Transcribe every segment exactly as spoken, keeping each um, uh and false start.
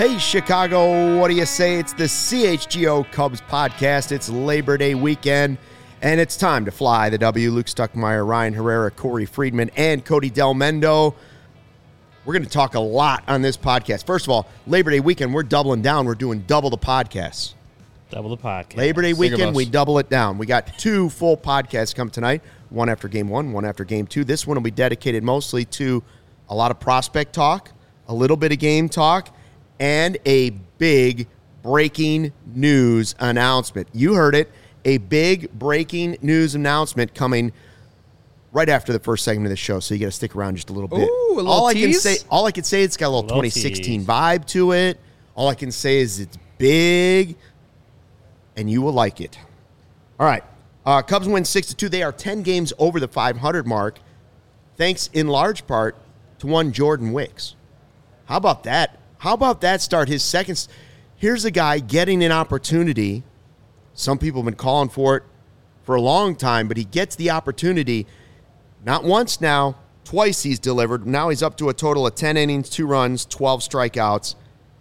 Hey, Chicago, what do you say? It's the C H G O Cubs podcast. It's Labor Day weekend, and it's time to fly the W. Luke Stuckmeyer, Ryan Herrera, Corey Friedman, and Cody Del Mendo. We're going to talk a lot on this podcast. First of all, Labor Day weekend, we're doubling down. We're doing double the podcasts. Double the podcast. Labor Day weekend, we double it down. We got two full podcasts come tonight, one after game one, one after game two. This one will be dedicated mostly to a lot of prospect talk, a little bit of game talk, and a big breaking news announcement. You heard it, a big breaking news announcement coming right after the first segment of the show, so you got to stick around just a little bit. Ooh, a little all I tease? can say, all I can say, it's got a little, little twenty sixteen tease. vibe to it. All I can say is it's big, and you will like it. All right, uh, Cubs win six to two. They are ten games over the five hundred mark, thanks in large part to one Jordan Wicks. How about that? How about that start? His second. Here's a guy getting an opportunity. Some people have been calling for it for a long time, but he gets the opportunity. Not once now, twice he's delivered. Now he's up to a total of ten innings, two runs, twelve strikeouts.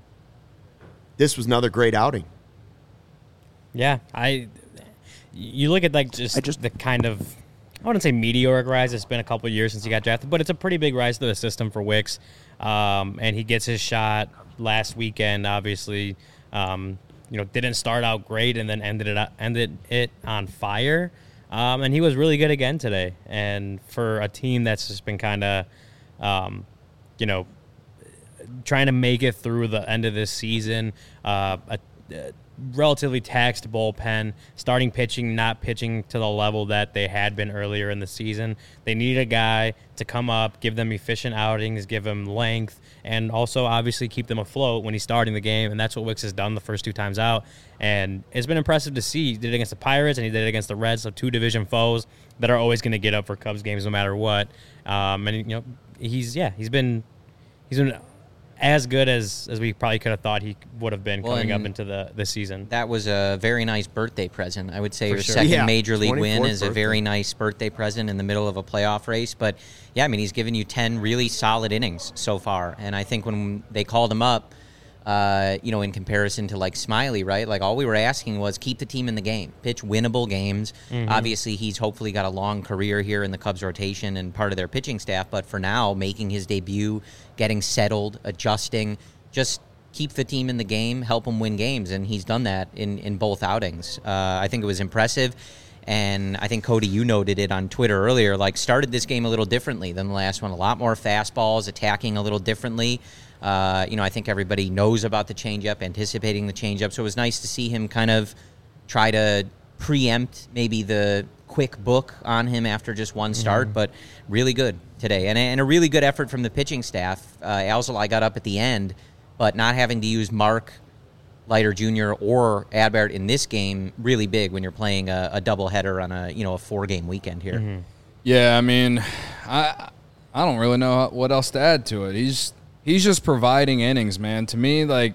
This was another great outing. Yeah, I. You look at like just, I just- the kind of, I wouldn't say meteoric rise. It's been a couple of years since he got drafted, but it's a pretty big rise to the system for Wicks. Um, and he gets his shot last weekend. Obviously, um, you know, didn't start out great and then ended it up, ended it on fire. Um, and he was really good again today. And for a team that's just been kind of, um, you know, trying to make it through the end of this season, uh, a, a relatively taxed bullpen, starting pitching, not pitching to the level that they had been earlier in the season. They need a guy to come up, give them efficient outings, give them length, and also obviously keep them afloat when he's starting the game, and that's what Wicks has done the first two times out. And it's been impressive to see. He did it against the Pirates, and he did it against the Reds, so two division foes that are always going to get up for Cubs games no matter what. Um, and, you know, he's, yeah, he's been he's been as good as, as we probably could have thought he would have been Well, coming up and into the, the season. That was a very nice birthday present. I would say For your sure. second Yeah, major league win twenty-fourth is a birthday. very nice birthday present in the middle of a playoff race. But, yeah, I mean, he's given you ten really solid innings so far. And I think when they called him up, uh, you know, in comparison to, like, Smiley, right? Like, all we were asking was keep the team in the game, pitch winnable games. Mm-hmm. Obviously, he's hopefully got a long career here in the Cubs rotation and part of their pitching staff. But for now, making his debut, getting settled, adjusting, just keep the team in the game, help them win games, and he's done that in, in both outings. Uh, I think it was impressive, and I think, Cody, you noted it on Twitter earlier, like started this game a little differently than the last one. A lot more fastballs, attacking a little differently. Uh, you know, I think everybody knows about the changeup, anticipating the changeup, so it was nice to see him kind of try to preempt maybe the quick book on him after just one start, mm. but really good today. And, and a really good effort from the pitching staff. Uh, Alzolay got up at the end, but not having to use Mark Leiter Junior or Adbert in this game, really big when you're playing a, a doubleheader on a you know a four-game weekend here. Mm-hmm. Yeah, I mean, I I don't really know what else to add to it. He's he's just providing innings, man. To me, like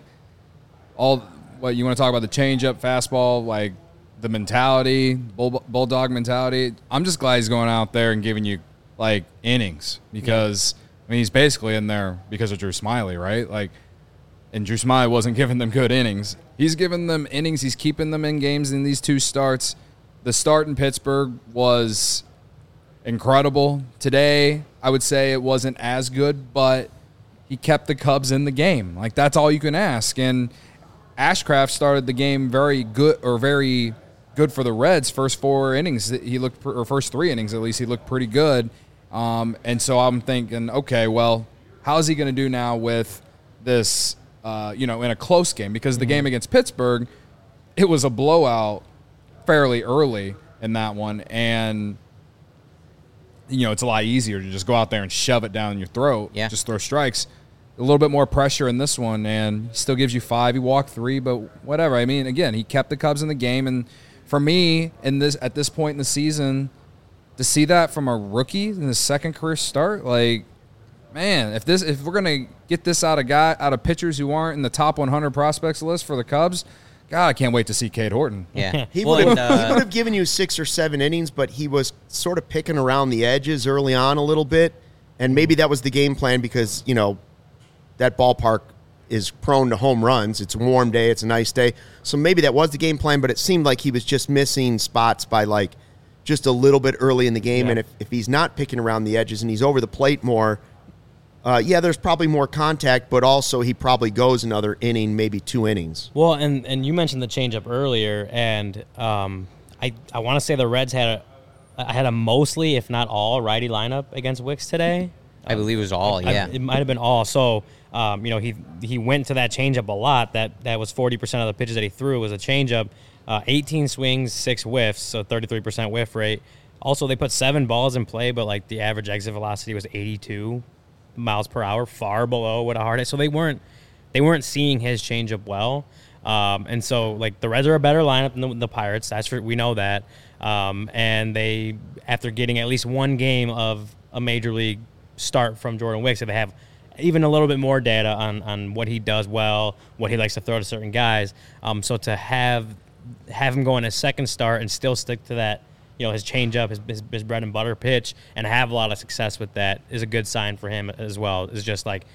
all what you want to talk about the changeup, fastball, like the mentality, bull, bulldog mentality. I'm just glad he's going out there and giving you like innings because yeah. I mean he's basically in there because of Drew Smiley, right? Like. And Drew Smiley wasn't giving them good innings. He's giving them innings. He's keeping them in games in these two starts. The start in Pittsburgh was incredible. Today, I would say it wasn't as good, but he kept the Cubs in the game. Like, that's all you can ask. And Ashcraft started the game very good, or very good for the Reds. First four innings, he looked, or first three innings at least, he looked pretty good. Um, and so I'm thinking, okay, well, how's he going to do now with this? Uh, you know, in a close game, because the game against Pittsburgh, it was a blowout fairly early in that one, and you know, it's a lot easier to just go out there and shove it down your throat, yeah. just throw strikes. A little bit more pressure in this one, and he still gives you five. He walked three, but whatever. I mean, again, he kept the Cubs in the game, and for me, in this at this point in the season, to see that from a rookie in his second career start, like. Man, if this if we're gonna get this out of guy out of pitchers who aren't in the top one hundred prospects list for the Cubs, God, I can't wait to see Cade Horton. Yeah, he well, would have and, uh, he would have given you six or seven innings, but he was sort of picking around the edges early on a little bit, and maybe that was the game plan because you know that ballpark is prone to home runs. It's a warm day. It's a nice day. So maybe that was the game plan, but it seemed like he was just missing spots by like just a little bit early in the game. Yeah. And if, if he's not picking around the edges and he's over the plate more, uh, yeah, there's probably more contact, but also he probably goes another inning, maybe two innings. Well, and, and you mentioned the changeup earlier, and um, I I want to say the Reds had a had a mostly, if not all, righty lineup against Wicks today. I believe it was all, I- yeah. it might have been all. So, um, you know, he he went to that changeup a lot. That that was forty percent of the pitches that he threw was a changeup. Uh, eighteen swings, six whiffs, so thirty-three percent whiff rate. Also, they put seven balls in play, but like the average exit velocity was eighty-two miles per hour, far below what a hard hit. So they weren't they weren't seeing his changeup well. Um, and so, like, the Reds are a better lineup than the, the Pirates. That's for, we know that. Um, and they, after getting at least one game of a major league start from Jordan Wicks, if they have even a little bit more data on, on what he does well, what he likes to throw to certain guys. Um, so to have have him go in his second start and still stick to that, you know, his changeup, his, his his bread and butter pitch, and have a lot of success with that is a good sign for him as well. It's just like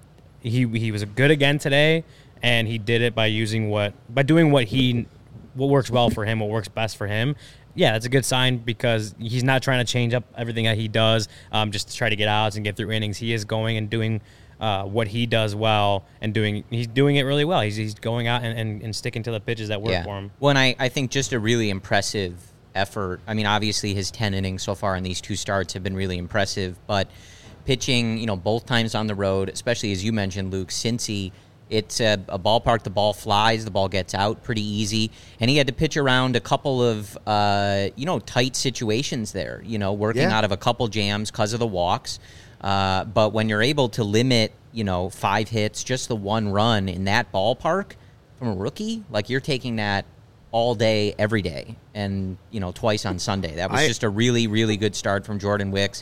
he he was good again today, and he did it by using what by doing what he what works well for him, what works best for him. Yeah, that's a good sign because he's not trying to change up everything that he does um, just to try to get outs and get through innings. He is going and doing uh, what he does well and doing. He's doing it really well. He's he's going out and, and, and sticking to the pitches that work yeah. for him. Well, and I, I think just a really impressive effort. I mean, obviously his ten innings so far in these two starts have been really impressive, but pitching, you know, both times on the road, especially as you mentioned, Luke, Cincy, it's a, a ballpark, the ball flies, the ball gets out pretty easy, and he had to pitch around a couple of, uh, you know, tight situations there, you know, working Yeah. out of a couple jams because of the walks. Uh, but when you're able to limit, you know, five hits, just the one run in that ballpark from a rookie, like you're taking that all day, every day, and, you know, twice on Sunday. That was I- just a really, really good start from Jordan Wicks.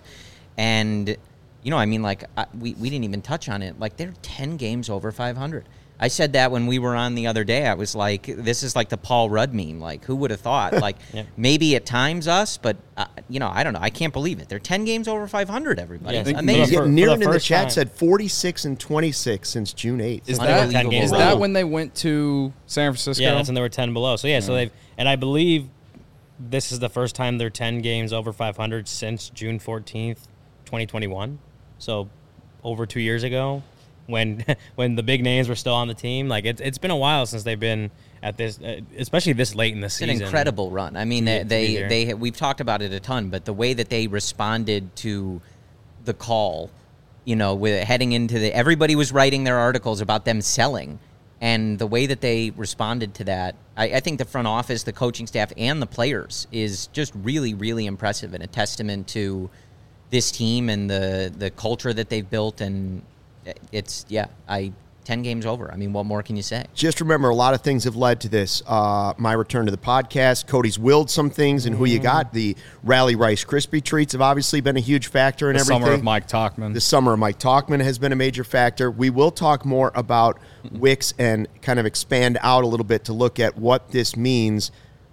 And, you know, I mean, like, I, we, we didn't even touch on it. Like, they're ten games over five hundred. I said that when we were on the other day. I was like, this is like the Paul Rudd meme. Like, who would have thought? Like, Yeah. maybe at times us, but, uh, you know, I don't know. I can't believe it. They're ten games over five hundred, everybody. Yeah, It's I think amazing. Yeah, for- for Niren the in the first chat time. said forty-six and twenty-six since June eighth. Is Unbelievable. that, ten games is in a that row. when they went to San Francisco? Yeah, that's when they were ten below. So yeah, so they've and I believe this is the first time they're ten games over five hundred since June fourteenth, twenty twenty-one. So over two years ago, when when the big names were still on the team, like it's it's been a while since they've been at this, uh, especially this late in the It's season. an incredible run. I mean, To they be- to be they, there. they we've talked about it a ton, but the way that they responded to the call, you know, with heading into the everybody was writing their articles about them selling, and the way that they responded to that, I, I think the front office, the coaching staff, and the players is just really, really impressive and a testament to this team and the the culture that they've built. And it's yeah, I ten games over. I mean, what more can you say? Just remember, a lot of things have led to this. Uh, my return to the podcast. Cody's willed some things, and who you got. The Rally Rice Krispie treats have obviously been a huge factor in the everything. summer of Mike Talkman. The summer of Mike Talkman has been a major factor. We will talk more about Wicks and kind of expand out a little bit to look at what this means,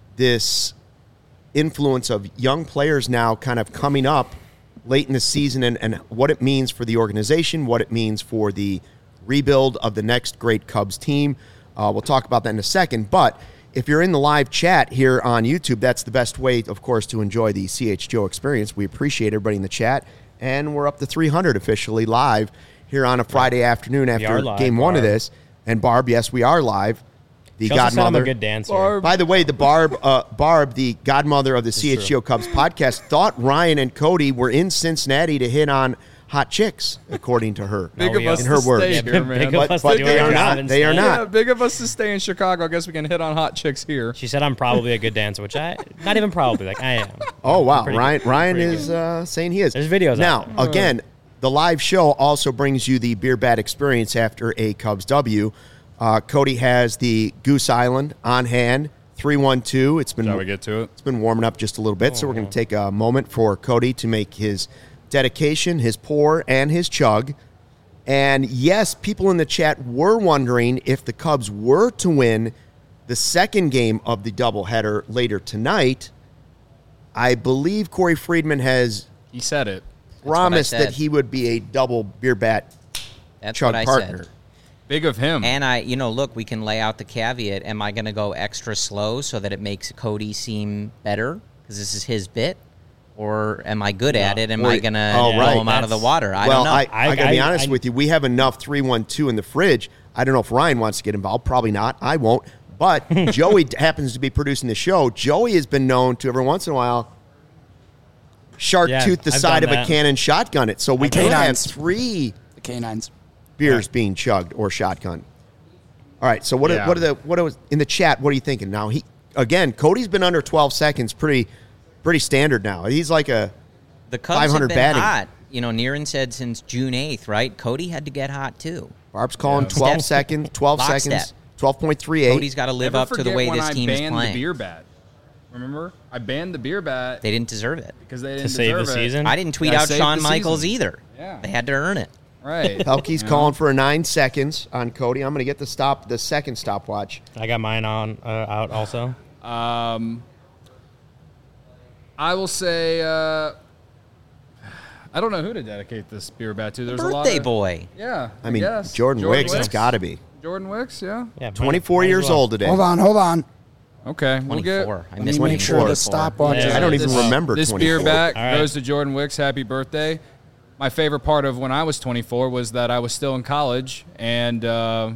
this influence of young players now kind of coming up late in the season, and, and what it means for the organization, what it means for the rebuild of the next great Cubs team. Uh, we'll talk about that in a second. But if you're in the live chat here on YouTube, that's the best way, of course, to enjoy the C H G O experience. We appreciate everybody in the chat. And we're up to three hundred officially live here on a Friday afternoon after are live, game one of Barb. this. And Barb, yes, we are live. The She also said I'm godmother. a good dancer. Barb. By the way, the Barb, uh, Barb, the godmother of the C H G O Cubs podcast, thought Ryan and Cody were in Cincinnati to hit on hot chicks, according to her. Big No, of we us in to her stay words. here, Big man. of But, us but to do they our are job not. They are instead. not. Yeah, big of us to stay in Chicago. I guess we can hit on hot chicks here. She said I'm probably a good dancer, which I not even probably like I am. Oh wow, Pretty Ryan! good. Ryan Pretty is uh, saying he is. There's videos now. out Again, the live show also brings you the beer bat experience after a Cubs W. Uh, Cody has the Goose Island on hand. three one two. It's been Shall we get to it? It's been warming up just a little bit, so we're going to take a moment for Cody to make his dedication, his pour, and his chug. And yes, people in the chat were wondering if the Cubs were to win the second game of the doubleheader later tonight. I believe Corey Friedman has He said it. promised said. that he would be a double beer bat That's chug what I partner. said. Big of him. And I, you know, look, we can lay out the caveat. Am I going to go extra slow so that it makes Cody seem better because this is his bit? Or am I good at it? Am Or- I going to oh, blow right, him out of the that's- water? I well, don't know. I, I, I- got to be I- honest I- with you. We have enough three one two in the fridge. I don't know if Ryan wants to get involved. Probably not. I won't. But Joey happens to be producing the show. Joey has been known to every once in a while shark Yeah, tooth the I've side of done a that. cannon shotgun it. So we Like could have canines. three The canines. beers being chugged or shotgun. All right. So what? Yeah. Are, what are the what was in the chat? What are you thinking now? He again. Cody's been under twelve seconds. Pretty pretty standard now. He's like a the Cubs five have hundred been batting. hot. You know, Niren said since June eighth, right? Cody had to get hot, too. Barb's calling Yeah. twelve Step- seconds. Twelve lockstep. seconds. Twelve point three eight. Cody's got to live Never up to the forget way when this I team is banned playing. the beer bat. Remember? I banned the beer bat They didn't deserve it. because they To didn't save the deserve it. season? I didn't tweet Yeah, out saved Shawn the Michaels season. either. Yeah. They had to earn it. Right. Pelkey's You calling know? for nine seconds on Cody. I'm going to get the stop, the second stopwatch. I got mine on uh, out also. Um, I will say, uh, I don't know who to dedicate this beer bat to. There's a lot Birthday of, boy. Yeah, I mean, guess. Jordan, Wicks, it's got to be. Jordan Wicks, yeah. Yeah, might- twenty-four might as years well. old today. Hold on, hold on. Okay, we'll get. twenty-four. I Let missed me make sure the twenty-four. stopwatch Yeah. is I don't even This- remember This twenty-four. beer bat All right. goes to Jordan Wicks. Happy birthday. My favorite part of when I was twenty-four was that I was still in college and, uh,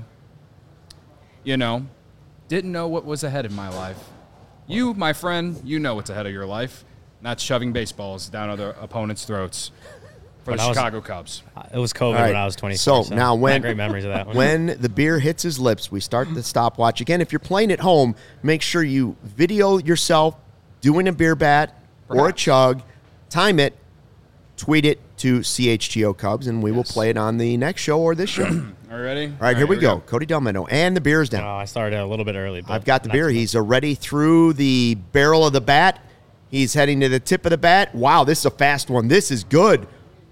you know, didn't know what was ahead in my life. You, my friend, you know what's ahead of your life. Not shoving baseballs down other opponents' throats for When the I was- Chicago Cubs. It was COVID All right. when I was twenty-four. So, now when not great memories of that one. when the beer hits his lips, we start the stopwatch. Again, if you're playing at home, make sure you video yourself doing a beer bat or a Perhaps. chug, time it, tweet it to C H G O Cubs, and we will Yes. play it on the next show or this show. All Are you ready? All right, here we go. Cody Delmendo, and the beer's down. Oh, I started a little bit early. But I've got the not beer. too He's already through the barrel of the bat. He's heading to the tip of the bat. Wow, this is a fast one. This is good.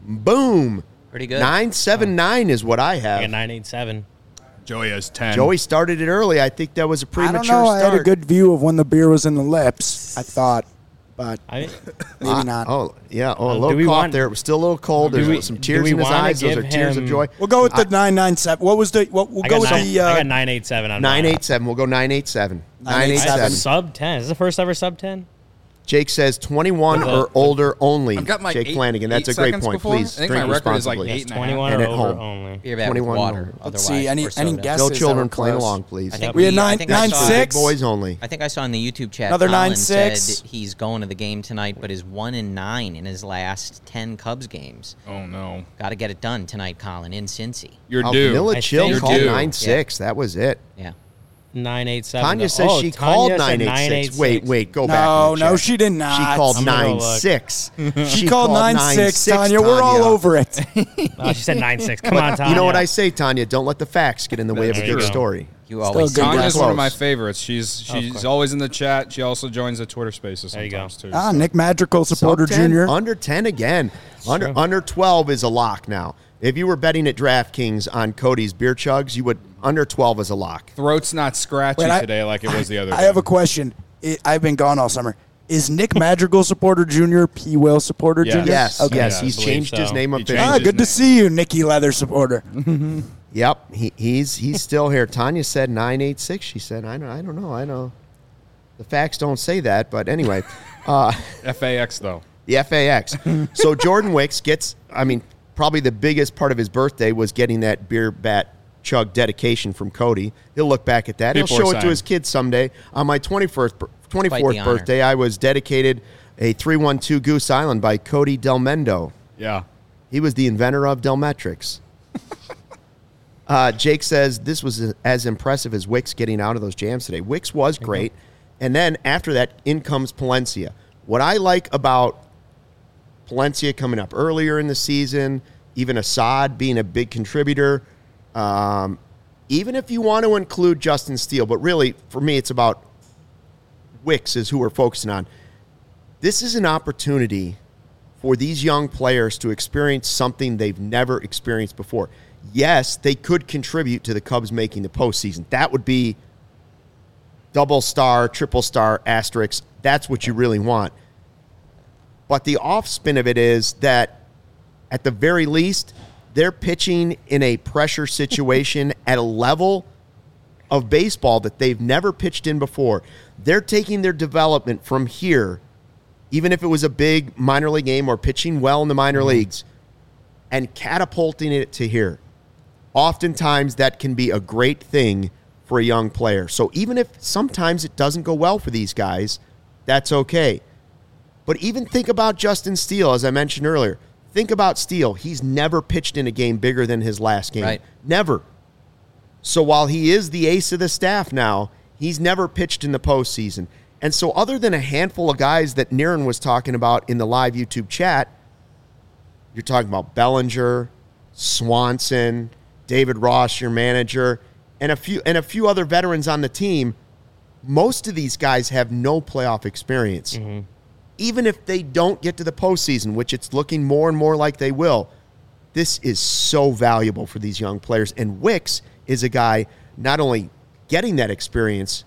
Boom. Pretty good. nine seven nine is what I I got have. nine eight seven. Joey has ten. Joey started it early. I think that was a I premature don't know. I start. had a good view of when the beer was in the lips, I thought, but I maybe not. Oh, yeah. Oh, a Uh, do little we cough want- there. It was still a little cold. do There's we- some do tears we in his wanna eyes. Those are give tears of him- joy. We'll go with the nine nine seven. What was the? What, we'll I go got with nine, the. I Uh, got nine eight seven on nine mine. eight seven. We'll go nine eight seven. nine eight I have seven. sub ten. Is this the first ever sub ten? Jake says twenty-one With or the- older only. I've got my Jake eight- Flanagan. That's eight a great seconds point. before. Please I think drink my record is like responsibly. eight and a half. twenty-one And or at over home. only. Beer bat with twenty-one water. more. Let's Otherwise, see, any- or any soda. guesses? No that children were playing close. along, please. I think We had I nine- think I nine saw- six. Big boys only. I think I saw in the YouTube chat. Another Colin nine six. said he's going to the game tonight, but is one and nine in his last ten Cubs games. Oh no, Got to get it done tonight, Colin, in Cincy. you're Oh, due. Vanilla I Chill think- called You're due. nine six. That was it. Yeah. Nine eight seven. Tanya says oh, she Tanya called said nine eight six. Wait, wait, go back. No, in the no, chat. she did not. She called I'm gonna go nine look. six. She, called nine six, Tanya. We're all over it. Oh, she said nine six. Come on, Tanya. You know what I say, Tanya? Don't let the facts get in the way of a There you good go. story. You always good say guy. Tanya's Close. one of my favorites. She's Of she's course. always in the chat. She also joins the Twitter Spaces There you go. sometimes too. Ah, so. Nick Madrigal supporter Sub ten, junior. Under ten again. Under true. under twelve is a lock now. If you were betting at DraftKings on Cody's beer chugs, you would under twelve is a lock. Throat's not scratchy Wait, I- today like it was the other I day. have a question. I- I've been gone all summer. Is Nick Madrigal supporter junior P. Will supporter Yes. junior? Yes, Okay. yes, Yeah, I he's believe changed his so. name He officially. changed Ah, his good to name. see you, Nicky Leather supporter. Yep, he, he's he's still here. Tanya said nine eight six. She said, I don't, I don't know. I know. The facts don't say that, but anyway, uh, F A X though. the F A X. So Jordan Wicks gets, I mean, probably the biggest part of his birthday was getting that beer bat chug dedication from Cody. He'll look back at that. He'll People show are it to saying. his kids someday. On my twenty-first, bir- twenty-fourth honor. birthday, I was dedicated a three one two Goose Island by Cody Delmendo. Yeah. He was the inventor of Delmetrics. uh, Jake says this was as impressive as Wicks getting out of those jams today. Wicks was great. And then after that, in comes Palencia. What I like about Palencia coming up earlier in the season, even Assad being a big contributor, um, even if you want to include Justin Steele, but really, for me, it's about Wicks is who we're focusing on. This is an opportunity for these young players to experience something they've never experienced before. Yes, they could contribute to the Cubs making the postseason. That would be double star, triple star, asterisk. That's what you really want. But the off spin of it is that, at the very least, they're pitching in a pressure situation at a level of baseball that they've never pitched in before. They're taking their development from here, even if it was a big minor league game or pitching well in the minor mm-hmm. leagues, and catapulting it to here. Oftentimes, that can be a great thing for a young player. So even if sometimes it doesn't go well for these guys, that's okay. But even think about Justin Steele, as I mentioned earlier. Think about Steele. He's never pitched in a game bigger than his last game. Right. Never. So while he is the ace of the staff now, he's never pitched in the postseason. And so other than a handful of guys that Niren was talking about in the live YouTube chat, you're talking about Bellinger, Swanson, David Ross, your manager, and a few and a few other veterans on the team. Most of these guys have no playoff experience. Mm-hmm. Even if they don't get to the postseason, which it's looking more and more like they will, this is so valuable for these young players. And Wicks is a guy not only getting that experience,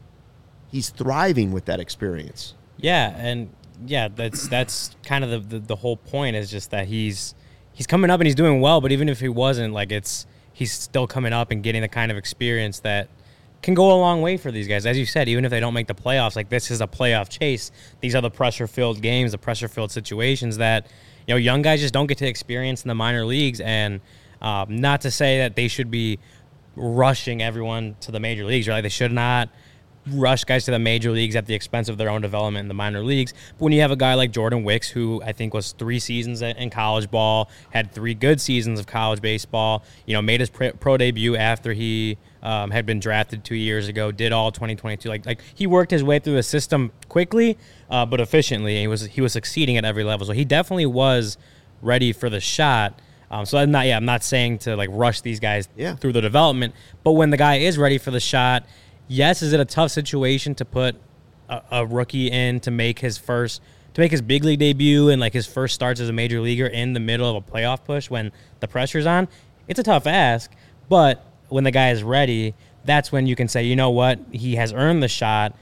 he's thriving with that experience. Yeah, and yeah, that's that's kind of the, the, the whole point is just that he's he's coming up and he's doing well, but even if he wasn't, like it's he's still coming up and getting the kind of experience that can go a long way for these guys. As you said, even if they don't make the playoffs, like this is a playoff chase. These are the pressure-filled games, the pressure-filled situations that, you know, young guys just don't get to experience in the minor leagues. And um, not to say that they should be rushing everyone to the major leagues, right? They should not rush guys to the major leagues at the expense of their own development in the minor leagues. But when you have a guy like Jordan Wicks, who I think was three seasons in college ball, had three good seasons of college baseball, you know, made his pro debut after he um, had been drafted two years ago, did all twenty twenty-two. Like, like he worked his way through the system quickly, uh, but efficiently. He was he was succeeding at every level. So he definitely was ready for the shot. Um, so I'm not, yeah, I'm not saying to like rush these guys yeah. through the development. But when the guy is ready for the shot, yes, is it a tough situation to put a, a rookie in to make his first, to make his big league debut and like his first starts as a major leaguer in the middle of a playoff push when the pressure's on? It's a tough ask, but when the guy is ready, that's when you can say, you know what, he has earned the shot.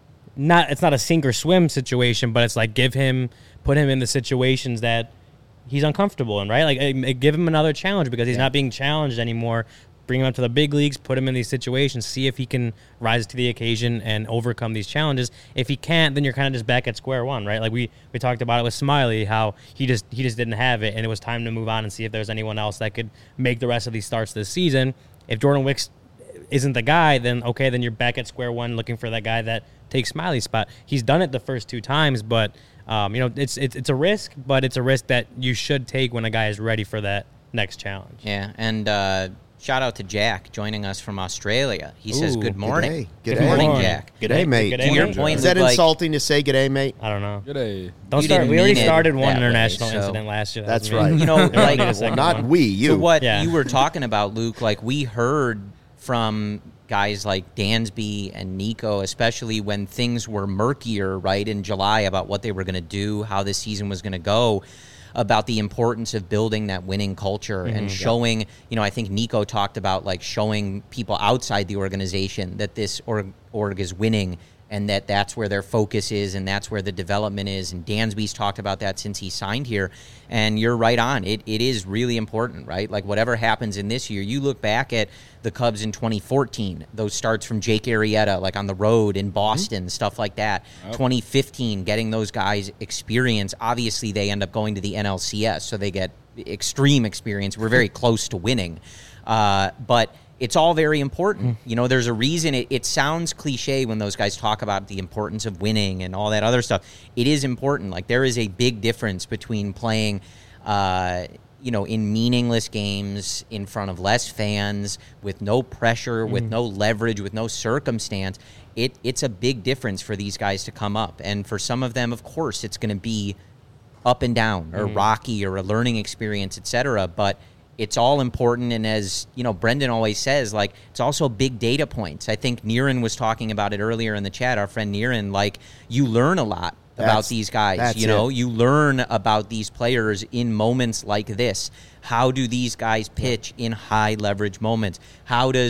Not, it's not a sink or swim situation, but it's like give him, put him in the situations that he's uncomfortable in, right? Like give him another challenge because he's yeah. not being challenged anymore. Bring him up to the big leagues, put him in these situations, see if he can rise to the occasion and overcome these challenges. If he can't, then you're kind of just back at square one, right? Like we, we talked about it with Smiley, how he just he just didn't have it, and it was time to move on and see if there's anyone else that could make the rest of these starts this season. If Jordan Wicks isn't the guy, then okay, then you're back at square one looking for that guy that takes Smiley's spot. He's done it the first two times, but um, you know it's, it's it's a risk, but it's a risk that you should take when a guy is ready for that next challenge. Yeah, and uh, shout out to Jack joining us from Australia. He Ooh, says good morning. Good, good day. morning, morning, Jack. Good day, mate. Good to day, your mate. point, is that like, insulting to say good day, mate? I don't know. Good day. Don't You start. didn't We already mean it started one that way, international so- incident last year. That's me. right. You know, We don't like need a second Not one. we, you. So what Yeah. you were talking about, Luke, like we heard from guys like Dansby and Nico, especially when things were murkier, right, in July about what they were going to do, how this season was going to go, about the importance of building that winning culture Mm-hmm, and showing, you know, I think Nico talked about like showing people outside the organization that this org, org is winning and that that's where their focus is and that's where the development is. And Dansby's talked about that since he signed here. And you're right on. It It is really important, right? Like whatever happens in this year, you look back at the Cubs in twenty fourteen, those starts from Jake Arrieta, like on the road in Boston, mm-hmm. stuff like that. Oh. twenty fifteen, getting those guys experience. Obviously, they end up going to the N L C S, so they get extreme experience. We're very close to winning. Uh, but it's all very important. Mm. You know, there's a reason it, it sounds cliche when those guys talk about the importance of winning and all that other stuff. It is important. Like there is a big difference between playing, uh, you know, in meaningless games in front of less fans with no pressure, mm. with no leverage, with no circumstance. It It's a big difference for these guys to come up. And for some of them, of course, it's going to be up and down or mm. rocky or a learning experience, et cetera. But it's all important, and as you know, Brendan always says, like it's also big data points. I think Niren was talking about it earlier in the chat. Our friend Niren, like you learn a lot That's, about these guys. You know, it. you learn about these players in moments like this. How do these guys pitch in high leverage moments? How does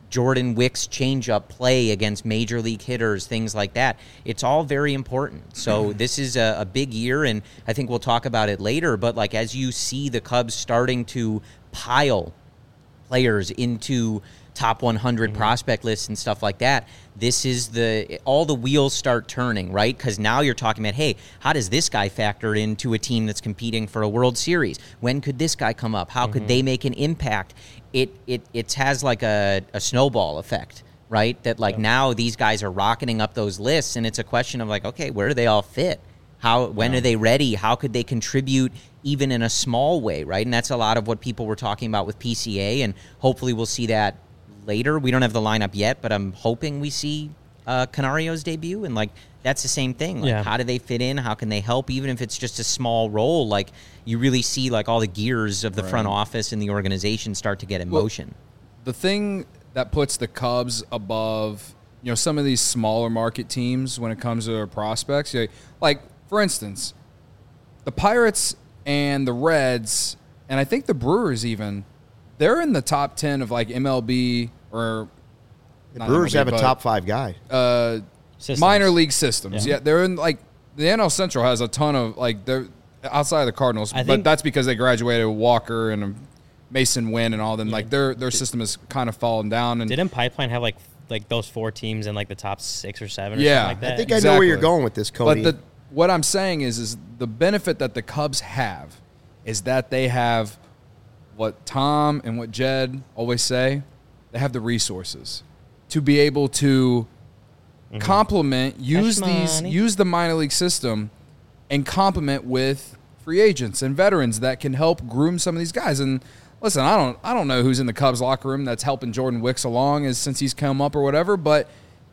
Jordan Wicks changeup play against major league hitters, things like that. It's all very important. So this is a, a big year, and I think we'll talk about it later. But like as you see the Cubs starting to pile players into top one hundred mm-hmm. prospect lists and stuff like that, this is the all the wheels start turning, right? Because now you're talking about, hey, how does this guy factor into a team that's competing for a World Series? When could this guy come up? How mm-hmm. could they make an impact? It it it has like a, a snowball effect, right? That like yeah. now these guys are rocketing up those lists, and it's a question of like, okay, where do they all fit? How when yeah. are they ready? How could they contribute even in a small way, right? And that's a lot of what people were talking about with P C A, and hopefully we'll see that later. We don't have the lineup yet, but I'm hoping we see uh, Canario's debut, and like that's the same thing. Like, yeah. how do they fit in? How can they help, even if it's just a small role? Like you really see like all the gears of the right. front office and the organization start to get in well, motion. The thing that puts the Cubs above, you know, some of these smaller market teams when it comes to their prospects, like, like for instance, the Pirates and the Reds, and I think the Brewers even, they're in the top ten of like M L B or the Brewers M L B, have a top five guy. Uh, minor league systems. Yeah. yeah, they're in like the N L Central has a ton of like they're outside of the Cardinals, I but think, that's because they graduated with Walker and Mason Wynn and all them. Yeah. Like their their system has kind of fallen down. And didn't Pipeline have like like those four teams in like the top six or seven? Or yeah, something like that? I think exactly. I know where you're going with this, Cody. But the, what I'm saying is, is the benefit that the Cubs have is that they have what Tom and what Jed always say, they have the resources to be able to mm-hmm. complement, use these, use the minor league system and complement with free agents and veterans that can help groom some of these guys. And listen, I don't, I don't know who's in the Cubs locker room that's helping Jordan Wicks along as since he's come up or whatever, but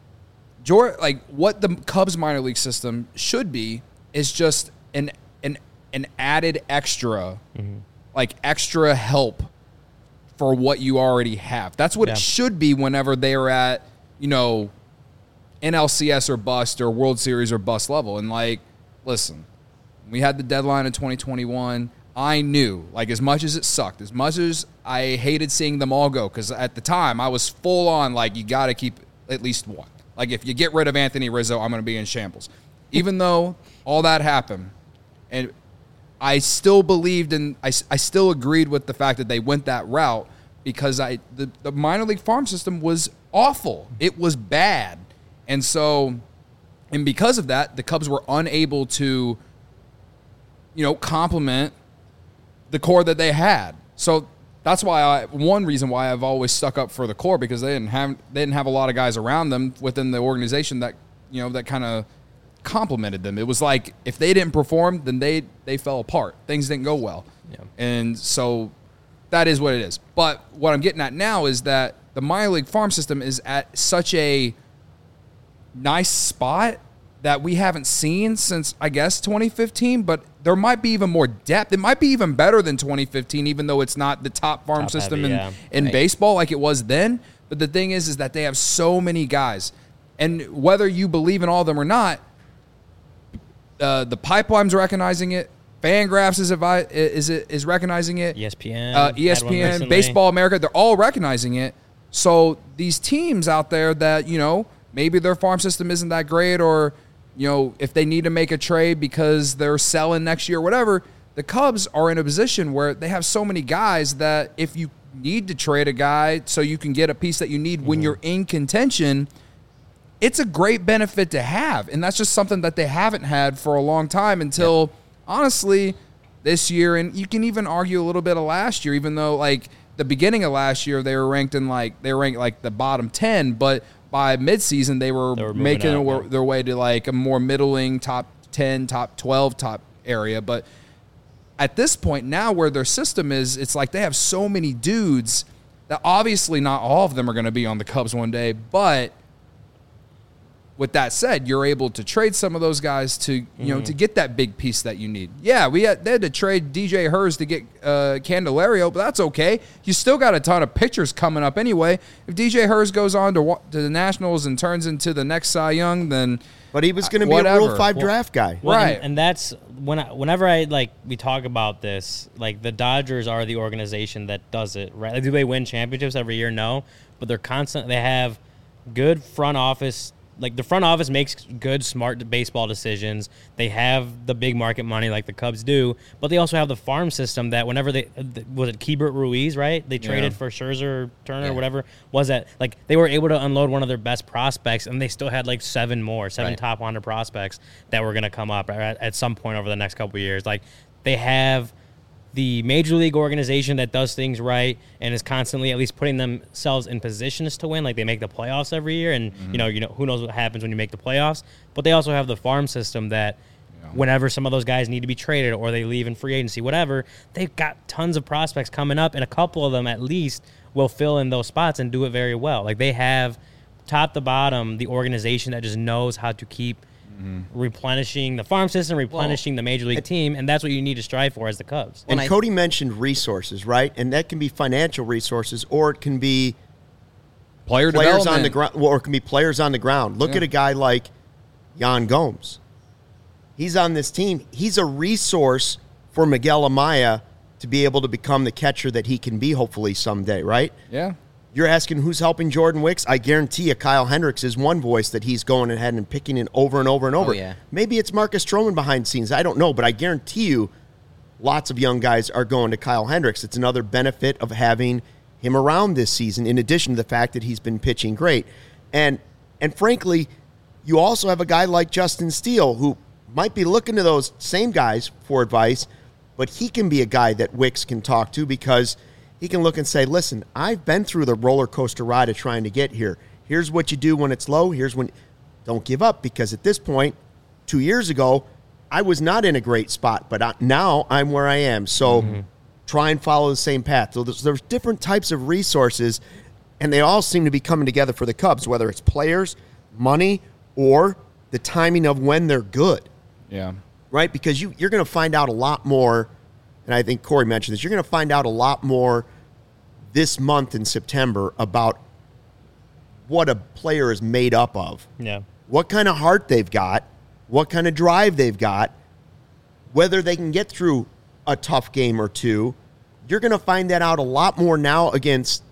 Jordan, like what the Cubs minor league system should be is just an, an, an added extra, mm-hmm. like extra help for what you already have. That's what yeah. it should be whenever they are at, you know, N L C S or bust or World Series or bust level. And like, listen, we had the deadline in twenty twenty-one. I knew, like as much as it sucked, as much as I hated seeing them all go, because at the time I was full on like, you got to keep at least one. Like if you get rid of Anthony Rizzo, I'm going to be in shambles. Even though all that happened, and I still believed in, I, I still agreed with the fact that they went that route because I the, the minor league farm system was awful. It was bad. And so, and because of that, the Cubs were unable to, you know, complement the core that they had. So that's why I, one reason why I've always stuck up for the core, because they didn't have, they didn't have a lot of guys around them within the organization that, you know, that kind of complimented them. It was like if they didn't perform, then they they fell apart. Things didn't go well. Yeah. And so that is what it is. But what I'm getting at now is that the minor league farm system is at such a nice spot that we haven't seen since, I guess, twenty fifteen, but there might be even more depth. It might be even better than twenty fifteen, even though it's not the top farm top system heavy, in, yeah. in right. baseball like it was then. But the thing is, is that they have so many guys. And whether you believe in all of them or not, Uh, the Pipeline's recognizing it. Fangraphs is advi- is is recognizing it. E S P N, uh, E S P N, Baseball America, they're all recognizing it. So these teams out there that, you know, maybe their farm system isn't that great, or, you know, if they need to make a trade because they're selling next year or whatever, the Cubs are in a position where they have so many guys that if you need to trade a guy so you can get a piece that you need mm-hmm. when you're in contention, it's a great benefit to have. And that's just something that they haven't had for a long time until, yep. honestly, this year. And you can even argue a little bit of last year, even though, like, the beginning of last year, they were ranked in, like, they were ranked, like, the bottom ten. But by midseason, they were, they were making out, their, their way to, like, a more middling top ten, top twelve, top area. But at this point now where their system is, it's like they have so many dudes that obviously not all of them are going to be on the Cubs one day, but with that said, you're able to trade some of those guys to, you mm-hmm. know, to get that big piece that you need. Yeah, we had, they had to trade D J Hurst to get uh, Candelario, but that's okay. You still got a ton of pitchers coming up anyway. If D J Hurst goes on to to the Nationals and turns into the next Cy Young, then but he was going to be a Rule Five well, draft guy, well, right? And, and that's when I, whenever I like we talk about this, like the Dodgers are the organization that does it, right? Like, do they win championships every year? No. but they're constant. They have good front office. Like, the front office makes good, smart baseball decisions. They have the big market money like the Cubs do, but they also have the farm system that whenever they – was it Keibert Ruiz, right? They traded Yeah. for Scherzer, Turner, Yeah. whatever. Was that – like, they were able to unload one of their best prospects, and they still had, like, seven more, seven Right. top one hundred prospects that were going to come up at, at some point over the next couple of years. Like, they have – the major league organization that does things right and is constantly at least putting themselves in positions to win, like they make the playoffs every year, and Mm-hmm. you know, you know who knows what happens when you make the playoffs. But they also have the farm system that, Yeah. whenever some of those guys need to be traded or they leave in free agency, whatever, they've got tons of prospects coming up, and a couple of them at least will fill in those spots and do it very well. Like, they have top to bottom the organization that just knows how to keep replenishing the farm system, replenishing the major league team, and that's what you need to strive for as the Cubs. And When I- Cody mentioned resources, right? And that can be financial resources, or it can be Player players on development. the ground, or it can be players on the ground. Look Yeah. at a guy like Yan Gomes. He's on this team. He's a resource for Miguel Amaya to be able to become the catcher that he can be, hopefully someday, right? Yeah. You're asking who's helping Jordan Wicks? I guarantee you Kyle Hendricks is one voice that he's going ahead and picking in over and over and over. yeah. Maybe it's Marcus Stroman behind the scenes. I don't know, but I guarantee you lots of young guys are going to Kyle Hendricks. It's another benefit of having him around this season, in addition to the fact that he's been pitching great. And and frankly, you also have a guy like Justin Steele, who might be looking to those same guys for advice, but he can be a guy that Wicks can talk to, because he can look and say, listen, I've been through the roller coaster ride of trying to get here. Here's what you do when it's low. Here's when – don't give up, because at this point, two years ago, I was not in a great spot, but I, now I'm where I am. So try and follow the same path. So there's, there's different types of resources, and they all seem to be coming together for the Cubs, whether it's players, money, or the timing of when they're good, Yeah. right? Because you, you're going to find out a lot more, and I think Corey mentioned this, you're going to find out a lot more this month in September about what a player is made up of, Yeah. what kind of heart they've got, what kind of drive they've got, whether they can get through a tough game or two. You're going to find that out a lot more now against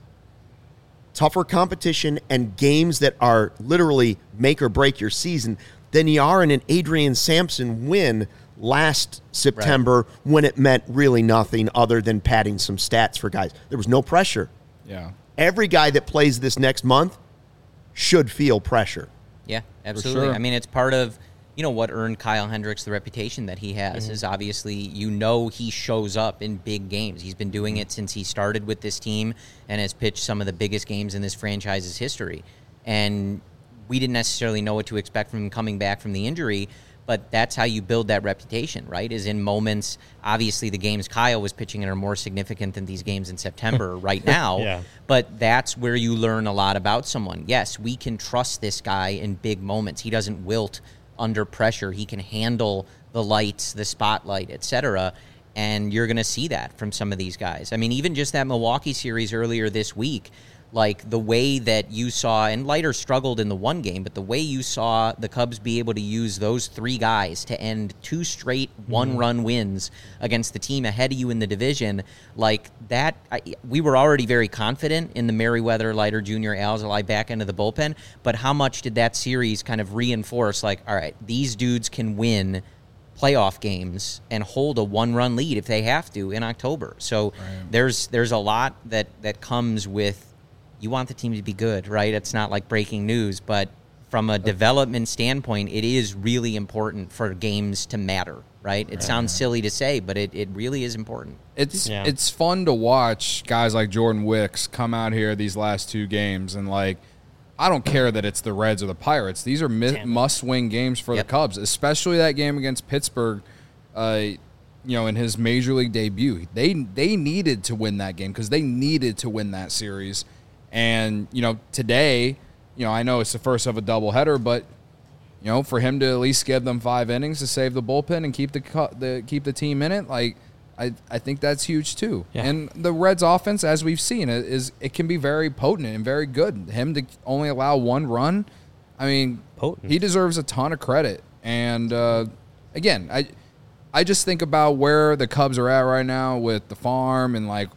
tougher competition and games that are literally make or break your season than you are in an Adrian Sampson win last September when it meant really nothing other than padding some stats for guys. There was no pressure. Yeah. Every guy that plays this next month should feel pressure. Yeah, absolutely. sure. I mean, it's part of, you know, what earned Kyle Hendricks the reputation that he has is obviously, you know, he shows up in big games. He's been doing it since he started with this team and has pitched some of the biggest games in this franchise's history. And we didn't necessarily know what to expect from him coming back from the injury, but that's how you build that reputation, right? Is in moments, obviously the games Kyle was pitching in are more significant than these games in September right now. Yeah. But that's where you learn a lot about someone. Yes, we can trust this guy in big moments. He doesn't wilt under pressure. He can handle the lights, the spotlight, et cetera. And you're going to see that from some of these guys. I mean, even just that Milwaukee series earlier this week, like the way that you saw, and Leiter struggled in the one game, but the way you saw the Cubs be able to use those three guys to end two straight one-run wins against the team ahead of you in the division, like that, I, we were already very confident in the Merriweather, Leiter Junior, Alzolay back end of the bullpen, but how much did that series kind of reinforce, like, all right, these dudes can win playoff games and hold a one-run lead if they have to in October. So there's there's a lot that, that comes with, you want the team to be good, right? It's not like breaking news, but from a development standpoint, it is really important for games to matter, right? It sounds silly to say, but it, it really is important. It's Yeah. it's fun to watch guys like Jordan Wicks come out here these last two games, and like, I don't care that it's the Reds or the Pirates. These are mi- must-win games for Yep. the Cubs, especially that game against Pittsburgh. Uh, you know, in his major league debut, they they needed to win that game because they needed to win that series. And you know, today, you know, I know it's the first of a doubleheader, but you know, for him to at least give them five innings to save the bullpen and keep the cu- the keep the team in it, like I I think that's huge too. Yeah. And the Reds' offense, as we've seen, it is it can be very potent and very good. Him to only allow one run, I mean, Potent. he deserves a ton of credit. And uh, again, I I just think about where the Cubs are at right now with the farm and like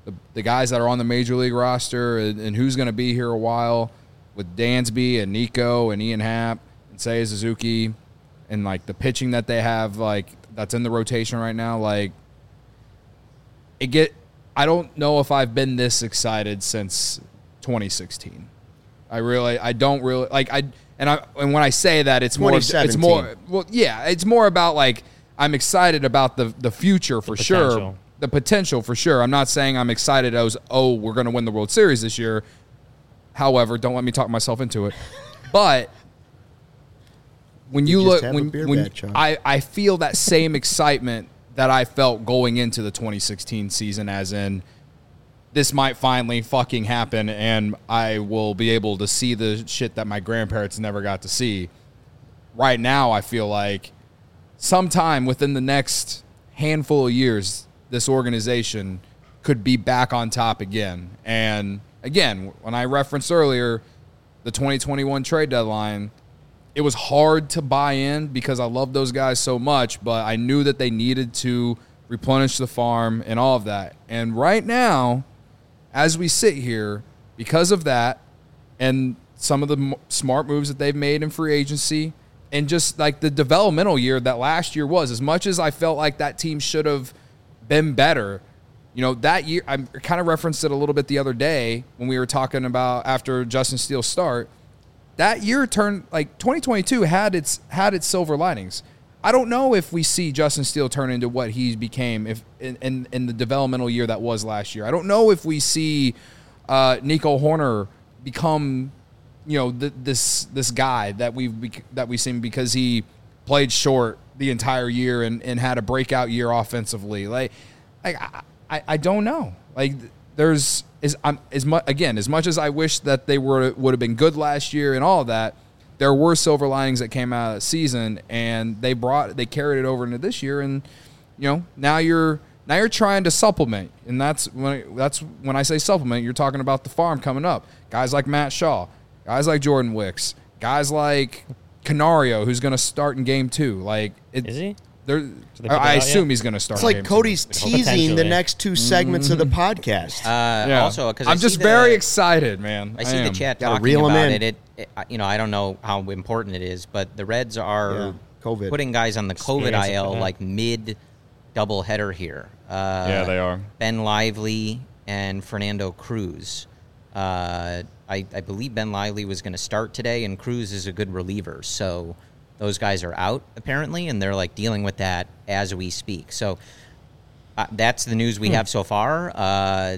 the, the guys that are on the major league roster and, and who's going to be here a while with Dansby and Nico and Ian Happ and Seiya Suzuki and, like, the pitching that they have, like, that's in the rotation right now, like, it get I don't know if I've been this excited since twenty sixteen. I really I don't really like I and I and when I say that it's more it's more well yeah, it's more about like I'm excited about the the future for The sure. potential. The potential for sure. I'm not saying I'm excited as oh, we're going to win the World Series this year. However, don't let me talk myself into it. But when you, You just look have a when beer when bat, John. I I feel that same excitement that I felt going into the twenty sixteen season, as in this might finally fucking happen and I will be able to see the shit that my grandparents never got to see. Right now, I feel like sometime within the next handful of years, this organization could be back on top again. And again, when I referenced earlier the twenty twenty-one trade deadline, it was hard to buy in because I love those guys so much, but I knew that they needed to replenish the farm and all of that. And right now, as we sit here, because of that and some of the m- smart moves that they've made in free agency and just like the developmental year that last year was, as much as I felt like that team should have been better, you know, that year, I kind of referenced it a little bit the other day when we were talking about after Justin Steele's start. That year turned like twenty twenty-two had its had its silver linings. I don't know if we see Justin Steele turn into what he became if in, in, in the developmental year that was last year. I don't know if we see uh, Nico Horner become, you know, th- this this guy that we've bec- that we've seen because he played short the entire year and, and had a breakout year offensively. Like, like I, I, I don't know. Like there's is um, as much again as much as I wish that they were would have been good last year and all of that. There were silver linings that came out of the season, and they brought they carried it over into this year. And you know now you're now you're trying to supplement, and that's when that's when I say supplement. You're talking about the farm coming up. Guys like Matt Shaw, guys like Jordan Wicks, guys like Canario, who's going to start in game two. Like, it, Is he? There, they put I, that I out assume yet? he's going to start. It's in like game Cody's two. teasing the Potentially. next two segments of the podcast. Uh, Yeah. Also, because I'm just very excited, man. I see am. the chat Gotta talking reel 'em about in. it. It, it. You know, I don't know how important it is, but the Reds are Yeah, COVID. putting guys on the COVID Experience I L it, yeah. like mid doubleheader here. Uh, Yeah, they are. Ben Lively and Fernando Cruz. Uh, I, I believe Ben Lively was going to start today, and Cruz is a good reliever. So those guys are out apparently, and they're like dealing with that as we speak. So uh, that's the news we Hmm. have so far. Uh,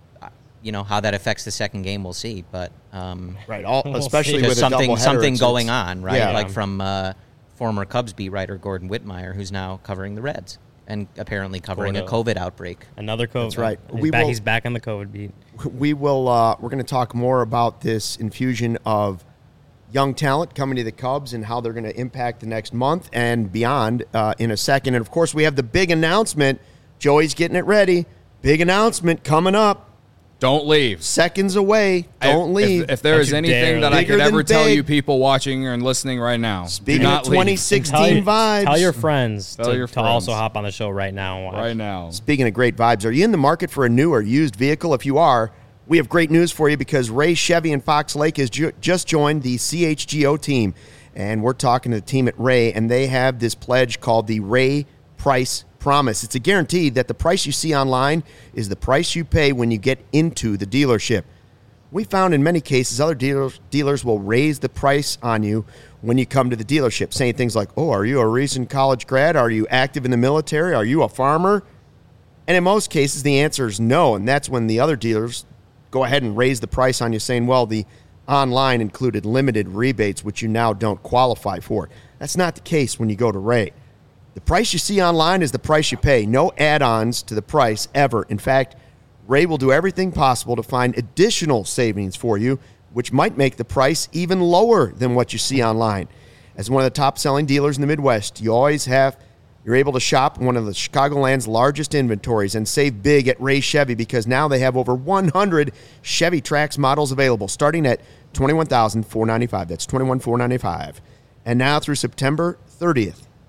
you know how that affects the second game, we'll see. But um, right, all, We'll especially see. with just a something doubleheader, something it's- going it's- on, right? Yeah. Like from uh, former Cubs beat writer Gordon Whitmire, who's now covering the Reds and apparently covering a Gordo. COVID outbreak. Another COVID. That's right. He's, We back, will- he's back on the COVID beat. we will uh, we're going to talk more about this infusion of young talent coming to the Cubs and how they're going to impact the next month and beyond uh, in a second. And of course, we have the big announcement. Joey's getting it ready. Big announcement coming up. Don't leave. Seconds away. Don't If- leave. If, if there Don't is you anything dare that leave. I Bigger could ever than tell big. you people watching and listening right now, Speaking do of not leave. twenty Tell, sixteen your- vibes. tell your friends, Tell to, your to also friends. hop on the show right now. and watch. right now. Speaking of great vibes, are you in the market for a new or used vehicle? If you are, we have great news for you because Ray Chevy in Fox Lake has ju- just joined the C H G O team. And we're talking to the team at Ray, and they have this pledge called the Ray Price Promise. It's a guarantee that the price you see online is the price you pay when you get into the dealership. We found in many cases other dealers, dealers will raise the price on you when you come to the dealership, saying things like, oh, are you a recent college grad? Are you active in the military? Are you a farmer? And in most cases, the answer is no, and that's when the other dealers go ahead and raise the price on you, saying, well, the online included limited rebates, which you now don't qualify for. That's not the case when you go to Ray. The price you see online is the price you pay. No add-ons to the price ever. In fact, Ray will do everything possible to find additional savings for you, which might make the price even lower than what you see online. As one of the top-selling dealers in the Midwest, you always have you're able to shop one of the Chicagoland's largest inventories and save big at Ray Chevy because now they have over one hundred Chevy Trax models available, starting at twenty-one thousand four hundred ninety-five dollars. That's twenty-one thousand four hundred ninety-five dollars. And now through September thirtieth,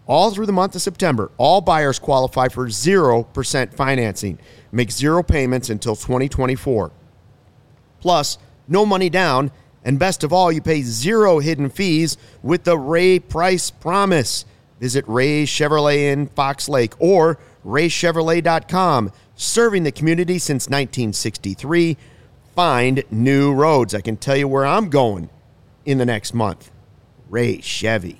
All through the month of September, all buyers qualify for zero percent financing. Make zero payments until twenty twenty-four. Plus, no money down, and best of all, you pay zero hidden fees with the Ray Price Promise. Visit Ray Chevrolet in Fox Lake or ray chevrolet dot com. Serving the community since nineteen sixty-three. Find new roads. I can tell you where I'm going in the next month. Ray Chevy.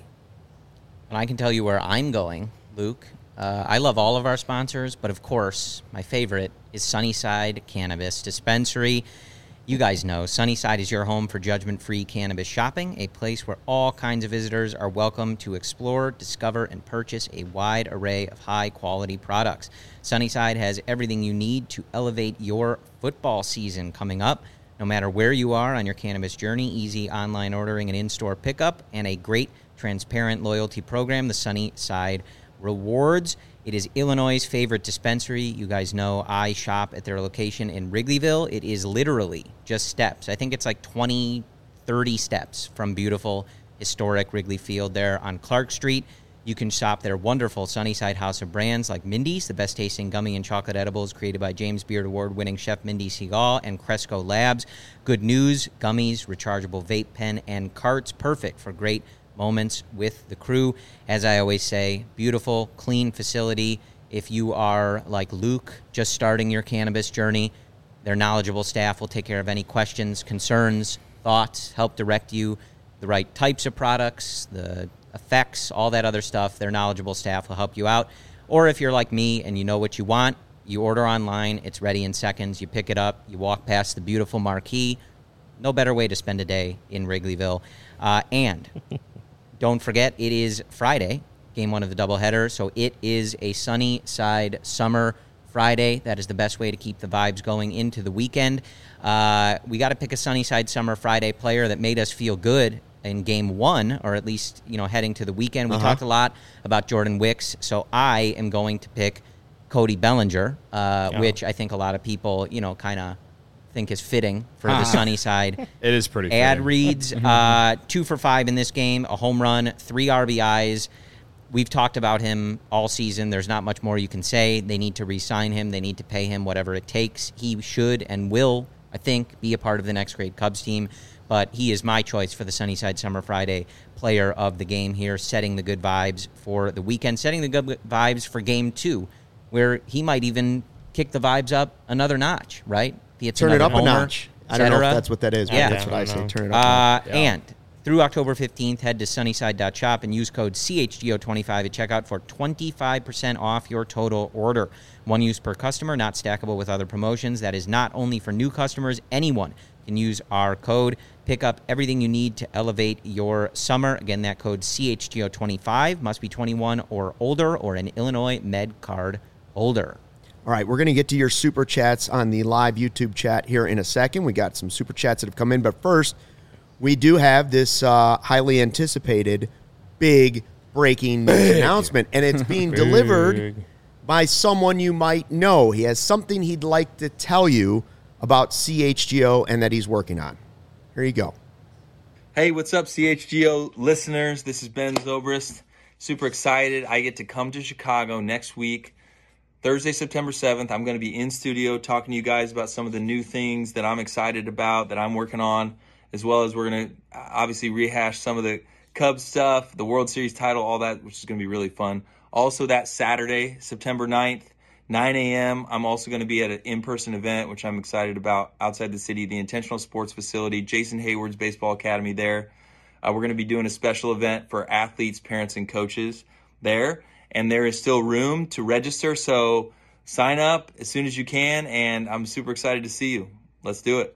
And I can tell you where I'm going, Luke. Uh, I love all of our sponsors, but of course, my favorite is Sunnyside Cannabis Dispensary. You guys know Sunnyside is your home for judgment-free cannabis shopping, a place where all kinds of visitors are welcome to explore, discover, and purchase a wide array of high-quality products. Sunnyside has everything you need to elevate your football season coming up. No matter where you are on your cannabis journey, easy online ordering and in-store pickup, and a great transparent loyalty program, the Sunnyside Rewards. It is Illinois' favorite dispensary. You guys know I shop at their location in Wrigleyville. It is literally just steps. I think it's like twenty, thirty steps from beautiful, historic Wrigley Field there on Clark Street. You can shop their wonderful Sunnyside House of Brands like Mindy's, the best-tasting gummy and chocolate edibles created by James Beard Award-winning chef Mindy Seagal and Cresco Labs. Good news, gummies, rechargeable vape pen, and carts, perfect for great moments with the crew. As I always say, beautiful, clean facility. If you are like Luke, just starting your cannabis journey, their knowledgeable staff will take care of any questions, concerns, thoughts, help direct you the right types of products, the effects, all that other stuff. Their knowledgeable staff will help you out. Or if you're like me and you know what you want, you order online, it's ready in seconds, you pick it up, you walk past the beautiful marquee. No better way to spend a day in Wrigleyville. Uh, and don't forget, it is Friday, game one of the doubleheader, so it is a Sunnyside Summer Friday. That is the best way to keep the vibes going into the weekend. Uh, we got to pick a Sunnyside Summer Friday player that made us feel good in game one, or at least, you know, heading to the weekend. We uh-huh. talked a lot about Jordan Wicks, so I am going to pick Cody Bellinger, uh, oh. which I think a lot of people, you know, kind of think is fitting for the Sunnyside. It is pretty ad fitting. reads. Uh, two for five in this game, a home run, three R B Is. We've talked about him all season. There's not much more you can say. They need to re-sign him. They need to pay him whatever it takes. He should and will, I think, be a part of the next great Cubs team. But he is my choice for the Sunnyside Summer Friday player of the game here, setting the good vibes for the weekend, setting the good vibes for game two, where he might even kick the vibes up another notch, right? Turn it up homer, a notch. I don't know if that's what that is, but yeah. that's what I, I say. know. Turn it up uh, a notch. yeah. And through October fifteenth, head to sunnyside dot shop and use code C H G O twenty-five at checkout for twenty-five percent off your total order. One use per customer, not stackable with other promotions. That is not only for new customers. Anyone can use our code. Pick up everything you need to elevate your summer. Again, that code C H G O twenty-five must be twenty-one or older or an Illinois Med Card holder. All right, we're going to get to your super chats on the live YouTube chat here in a second. We got some super chats that have come in, but first, we do have this uh, highly anticipated big breaking news announcement, and it's being delivered by someone you might know. He has something he'd like to tell you about C H G O and that he's working on. Here you go. Hey, what's up, C H G O listeners? This is Ben Zobrist. Super excited. I get to come to Chicago next week. Thursday, September seventh, I'm going to be in studio talking to you guys about some of the new things that I'm excited about, that I'm working on, as well as we're going to obviously rehash some of the Cubs stuff, the World Series title, all that, which is going to be really fun. Also, that Saturday, September ninth, nine a.m., I'm also going to be at an in-person event, which I'm excited about, outside the city, the Intentional Sports Facility, Jason Hayward's Baseball Academy there. Uh, we're going to be doing a special event for athletes, parents, and coaches there. And there is still room to register, so sign up as soon as you can, and I'm super excited to see you. Let's do it.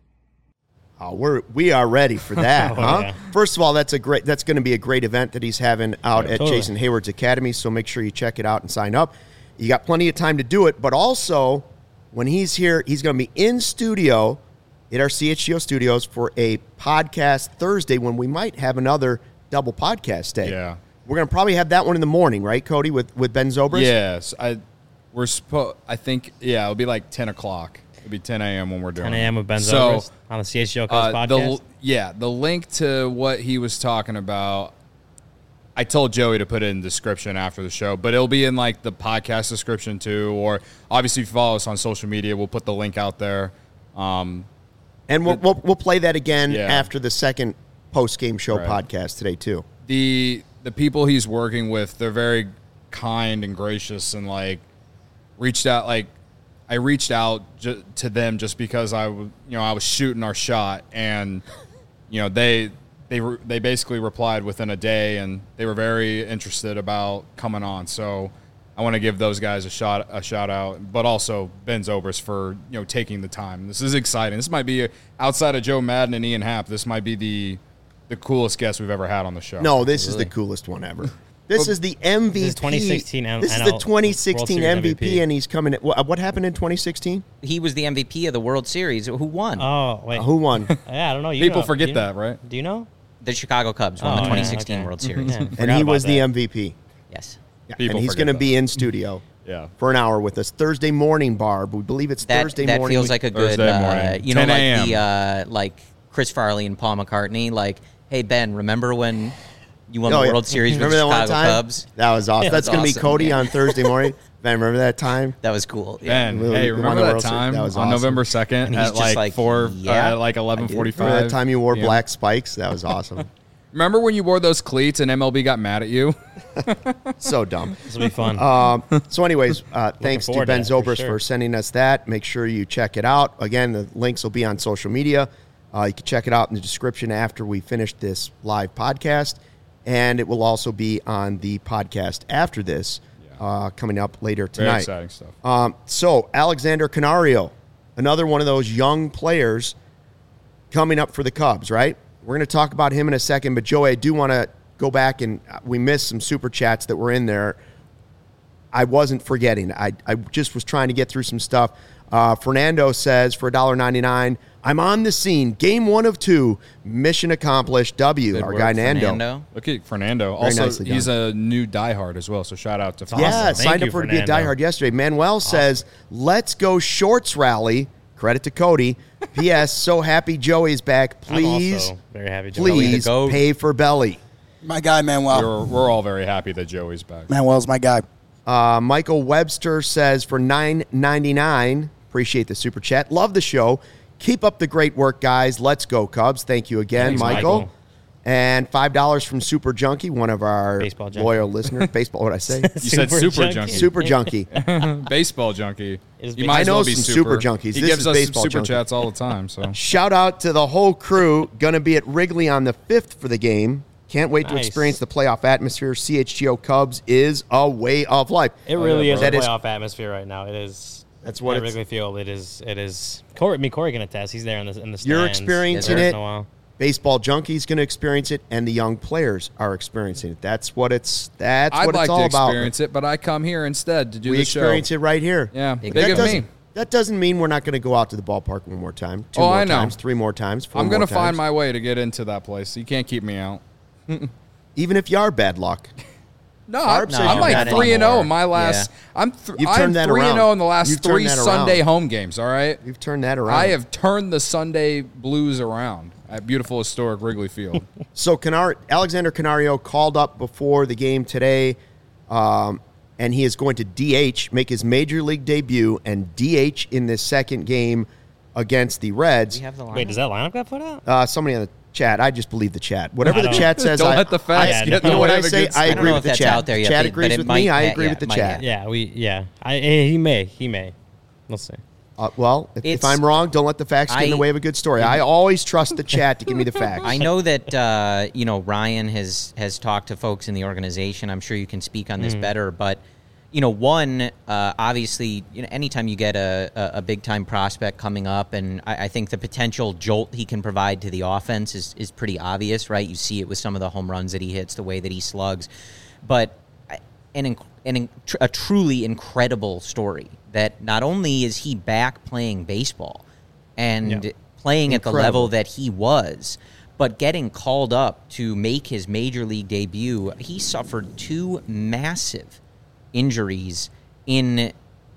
Oh, we're we are ready for that, oh, huh? Yeah. First of all, that's a great that's going to be a great event that he's having out yeah, at totally. Jason Hayward's Academy, so make sure you check it out and sign up. You got plenty of time to do it, but also when he's here, he's going to be in studio at our C H G O studios for a podcast Thursday when we might have another double podcast day. Yeah. We're going to probably have that one in the morning, right, Cody, with, with Ben Zobrist? Yes. I we're supposed I think yeah, it'll be like ten o'clock. It'll be ten a.m. when we're doing ten a.m. with Ben so, Zobrist on the C H G O Cubs uh, podcast. the, yeah, the link to what he was talking about, I told Joey to put it in the description after the show, but it'll be in like the podcast description too. Or obviously, if you follow us on social media, we'll put the link out there. Um, and we'll, we'll we'll play that again Yeah. after the second post game show Right. podcast today too. the the people he's working with, they're very kind and gracious, and like reached out. Like I reached out ju- to them just because I, w- you know, I was shooting our shot, and you know they. They re- they basically replied within a day, and they were very interested about coming on. So I want to give those guys a shot a shout out, but also Ben Zobrist for you know taking the time. This is exciting. This might be outside of Joe Madden and Ian Happ. This might be the the coolest guest we've ever had on the show. No, this is the coolest one ever. This is the M V P. This is twenty sixteen M- This is N the L twenty World sixteen Series M V P, M V P. and he's coming. At, what, what happened in twenty sixteen? He was the M V P of the World Series. Who won? Oh wait, Uh, who won? yeah, I don't know. You People know. forget Do you- that, right? Do you know? The Chicago Cubs won Oh, the yeah, twenty sixteen okay. World Series. Yeah, And forgot he about was the that. M V P. Yes. People and he's forget going to that. be in studio Yeah. for an hour with us Thursday morning, Barb. We believe it's That Thursday that morning. feels We- like a good, Thursday uh, morning, you know, 10 like a.m. the uh, like Chris Farley and Paul McCartney. Like, hey Ben, remember when you won Oh, the yeah. World Series with Remember the that one Chicago time? Cubs? That was awesome. Yeah, That's that's going to be awesome, Cody yeah. on Thursday morning. Ben, remember that time? That was cool. Yeah. Ben, We- hey, we won remember the that World Series. time That was on awesome. November second And he's at just like, like, four, yeah, uh, like eleven Remember forty-five? that time you wore Yeah. black spikes? That was awesome. Remember when you wore those cleats and M L B got mad at you? So dumb. This will be fun. Um, so, anyways, uh, thanks to forward to Ben that, for Zobrist for, sure. sending us that. Make sure you check it out. Again, the links will be on social media. Uh, you can check it out in the description after we finish this live podcast. And it will also be on the podcast after this, uh, coming up later Very tonight. exciting stuff. Um, so, Alexander Canario, another one of those young players coming up for the Cubs, right? We're going to talk about him in a second, but Joey, I do want to go back, and we missed some super chats that were in there. I wasn't forgetting. I, I just was trying to get through some stuff. Uh, Fernando says, for one dollar ninety-nine, I'm on the scene. Game one of two. Mission accomplished. W. Good Our work, guy Nando. Fernando. Look at Fernando. Very Also, nicely he's done. a new diehard as well, so shout out to awesome. Yeah, Thank signed you, up for to be a Fernando. diehard yesterday. Manuel says, let's go shorts rally. Credit to Cody. P S. So happy Joey's back. I'm Please, also very happy. Joey. please the goat. pay for belly. My guy, Manuel. We're, we're all very happy that Joey's back. Manuel's my guy. Uh, Michael Webster says for nine ninety-nine, appreciate the super chat. Love the show. Keep up the great work, guys. Let's go, Cubs. Thank you again, Thanks, Michael. Michael. And five dollars from Super Junkie, one of our Baseball junkie. loyal listeners. Baseball, what did I say? You said super junkie. Super Junkie. Baseball junkie. Is You baseball- might as I know well be some super. super junkies. He This gives is us baseball super junkie. chats all the time. So Shout out to the whole crew. Going to be at Wrigley on the fifth for the game. Can't wait to Nice. experience the playoff atmosphere. C H G O Cubs is a way of life. It really is a That is- playoff atmosphere right now. It is. That's what at it's- Wrigley Field. It is. It is. Corey, I mean, Corey can attest. He's there in the in the stands. You're experiencing Yes, it. in a while. Baseball Junkie's going to experience it, and the young players are experiencing it. That's what it's. That's I'd what like it's all to about. experience it, but I come here instead to do We the experience show. it right here. Yeah, That big That of doesn't, me. that doesn't mean we're not going to go out to the ballpark one more time. Two Oh, more I know. times, three more times, four I'm going gonna to find my way to get into that place. You can't keep me out. Even if you are bad luck. No, Barb I'm, says I'm you're like not three and zero anymore. in my last. Yeah. I'm th- You've I'm turned that three and around. zero in the last You've turned three that around. Sunday home games. All right, You've turned that around. I have turned the Sunday Blues around at beautiful historic Wrigley Field. So Canar- Alexander Canario called up before the game today, um, and he is going to D H, make his major league debut, and D H in this second game against the Reds. We have the line. Wait, does that lineup got put out? Uh, somebody on the chat. I just believe the chat. Whatever I the don't- chat says. Don't I, let the facts I, get You know in what the way I of a say? good I story. agree I don't know with if the that's chat. out there yet, Chat but- agrees but it with might- me. I yeah, agree yeah, with the it might chat. have. Yeah, we. Yeah, I. He may. He may. Let's see. Uh, well, if, if It's- I'm wrong, don't let the facts get in the I- way of a good story. I always trust the chat to give me the facts. I know that uh, you know Ryan has has talked to folks in the organization. I'm sure you can speak on this better, but you know, one uh, obviously, you know, anytime you get a, a, a big time prospect coming up, and I, I think the potential jolt he can provide to the offense is is pretty obvious, right? You see it with some of the home runs that he hits, the way that he slugs, but an inc- an inc- a truly incredible story that not only is he back playing baseball and Yeah. playing at the Incredible. level that he was, but getting called up to make his major league debut. He suffered two massive injuries in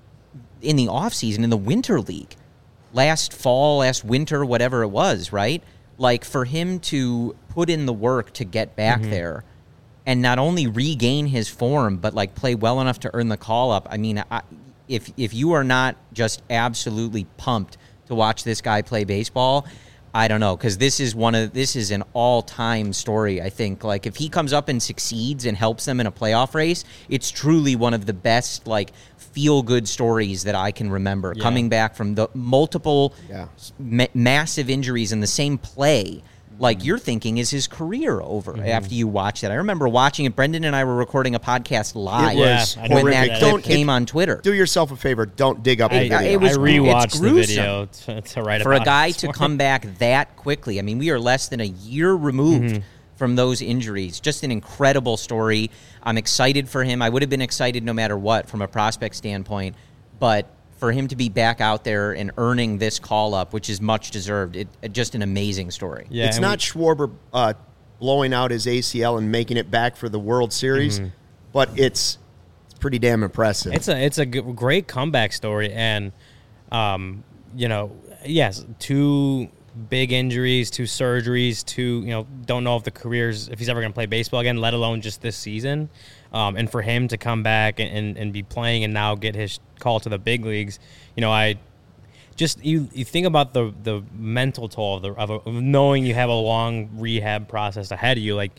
in the offseason, in the winter league. Last fall, last winter, whatever it was, right? Like, for him to put in the work to get back there, and not only regain his form, but like play well enough to earn the call up. I mean, I, if if you are not just absolutely pumped to watch this guy play baseball, I don't know, because this is one of this is an all-time story. I think like if he comes up and succeeds and helps them in a playoff race, it's truly one of the best like feel-good stories that I can remember. Yeah. Coming back from the multiple Yeah. ma- massive injuries in the same play. Like you're thinking, is his career over Mm-hmm. after you watch that? I remember watching it. Brendan and I were recording a podcast live was Yeah, I when remember that that. clip Don't- came on Twitter. Do yourself a favor. Don't dig up the I- video. it was- I rewatched it's the gruesome. video to, to write For a about guy it this to morning. come back that quickly. I mean, we are less than a year removed Mm-hmm. from those injuries. Just an incredible story. I'm excited for him. I would have been excited no matter what from a prospect standpoint, but for him to be back out there and earning this call up, which is much deserved, it, it just an amazing story. Yeah, it's and not Schwarber uh, blowing out his A C L and making it back for the World Series, but it's it's pretty damn impressive. It's a it's a g- great comeback story, and um, you know, yes, two big injuries, two surgeries, two you know, don't know if the careers if he's ever going to play baseball again, let alone just this season. Um, and for him to come back and, and, and be playing and now get his call to the big leagues, you know, I just you, you think about the the mental toll of the of, a, of knowing you have a long rehab process ahead of you, like.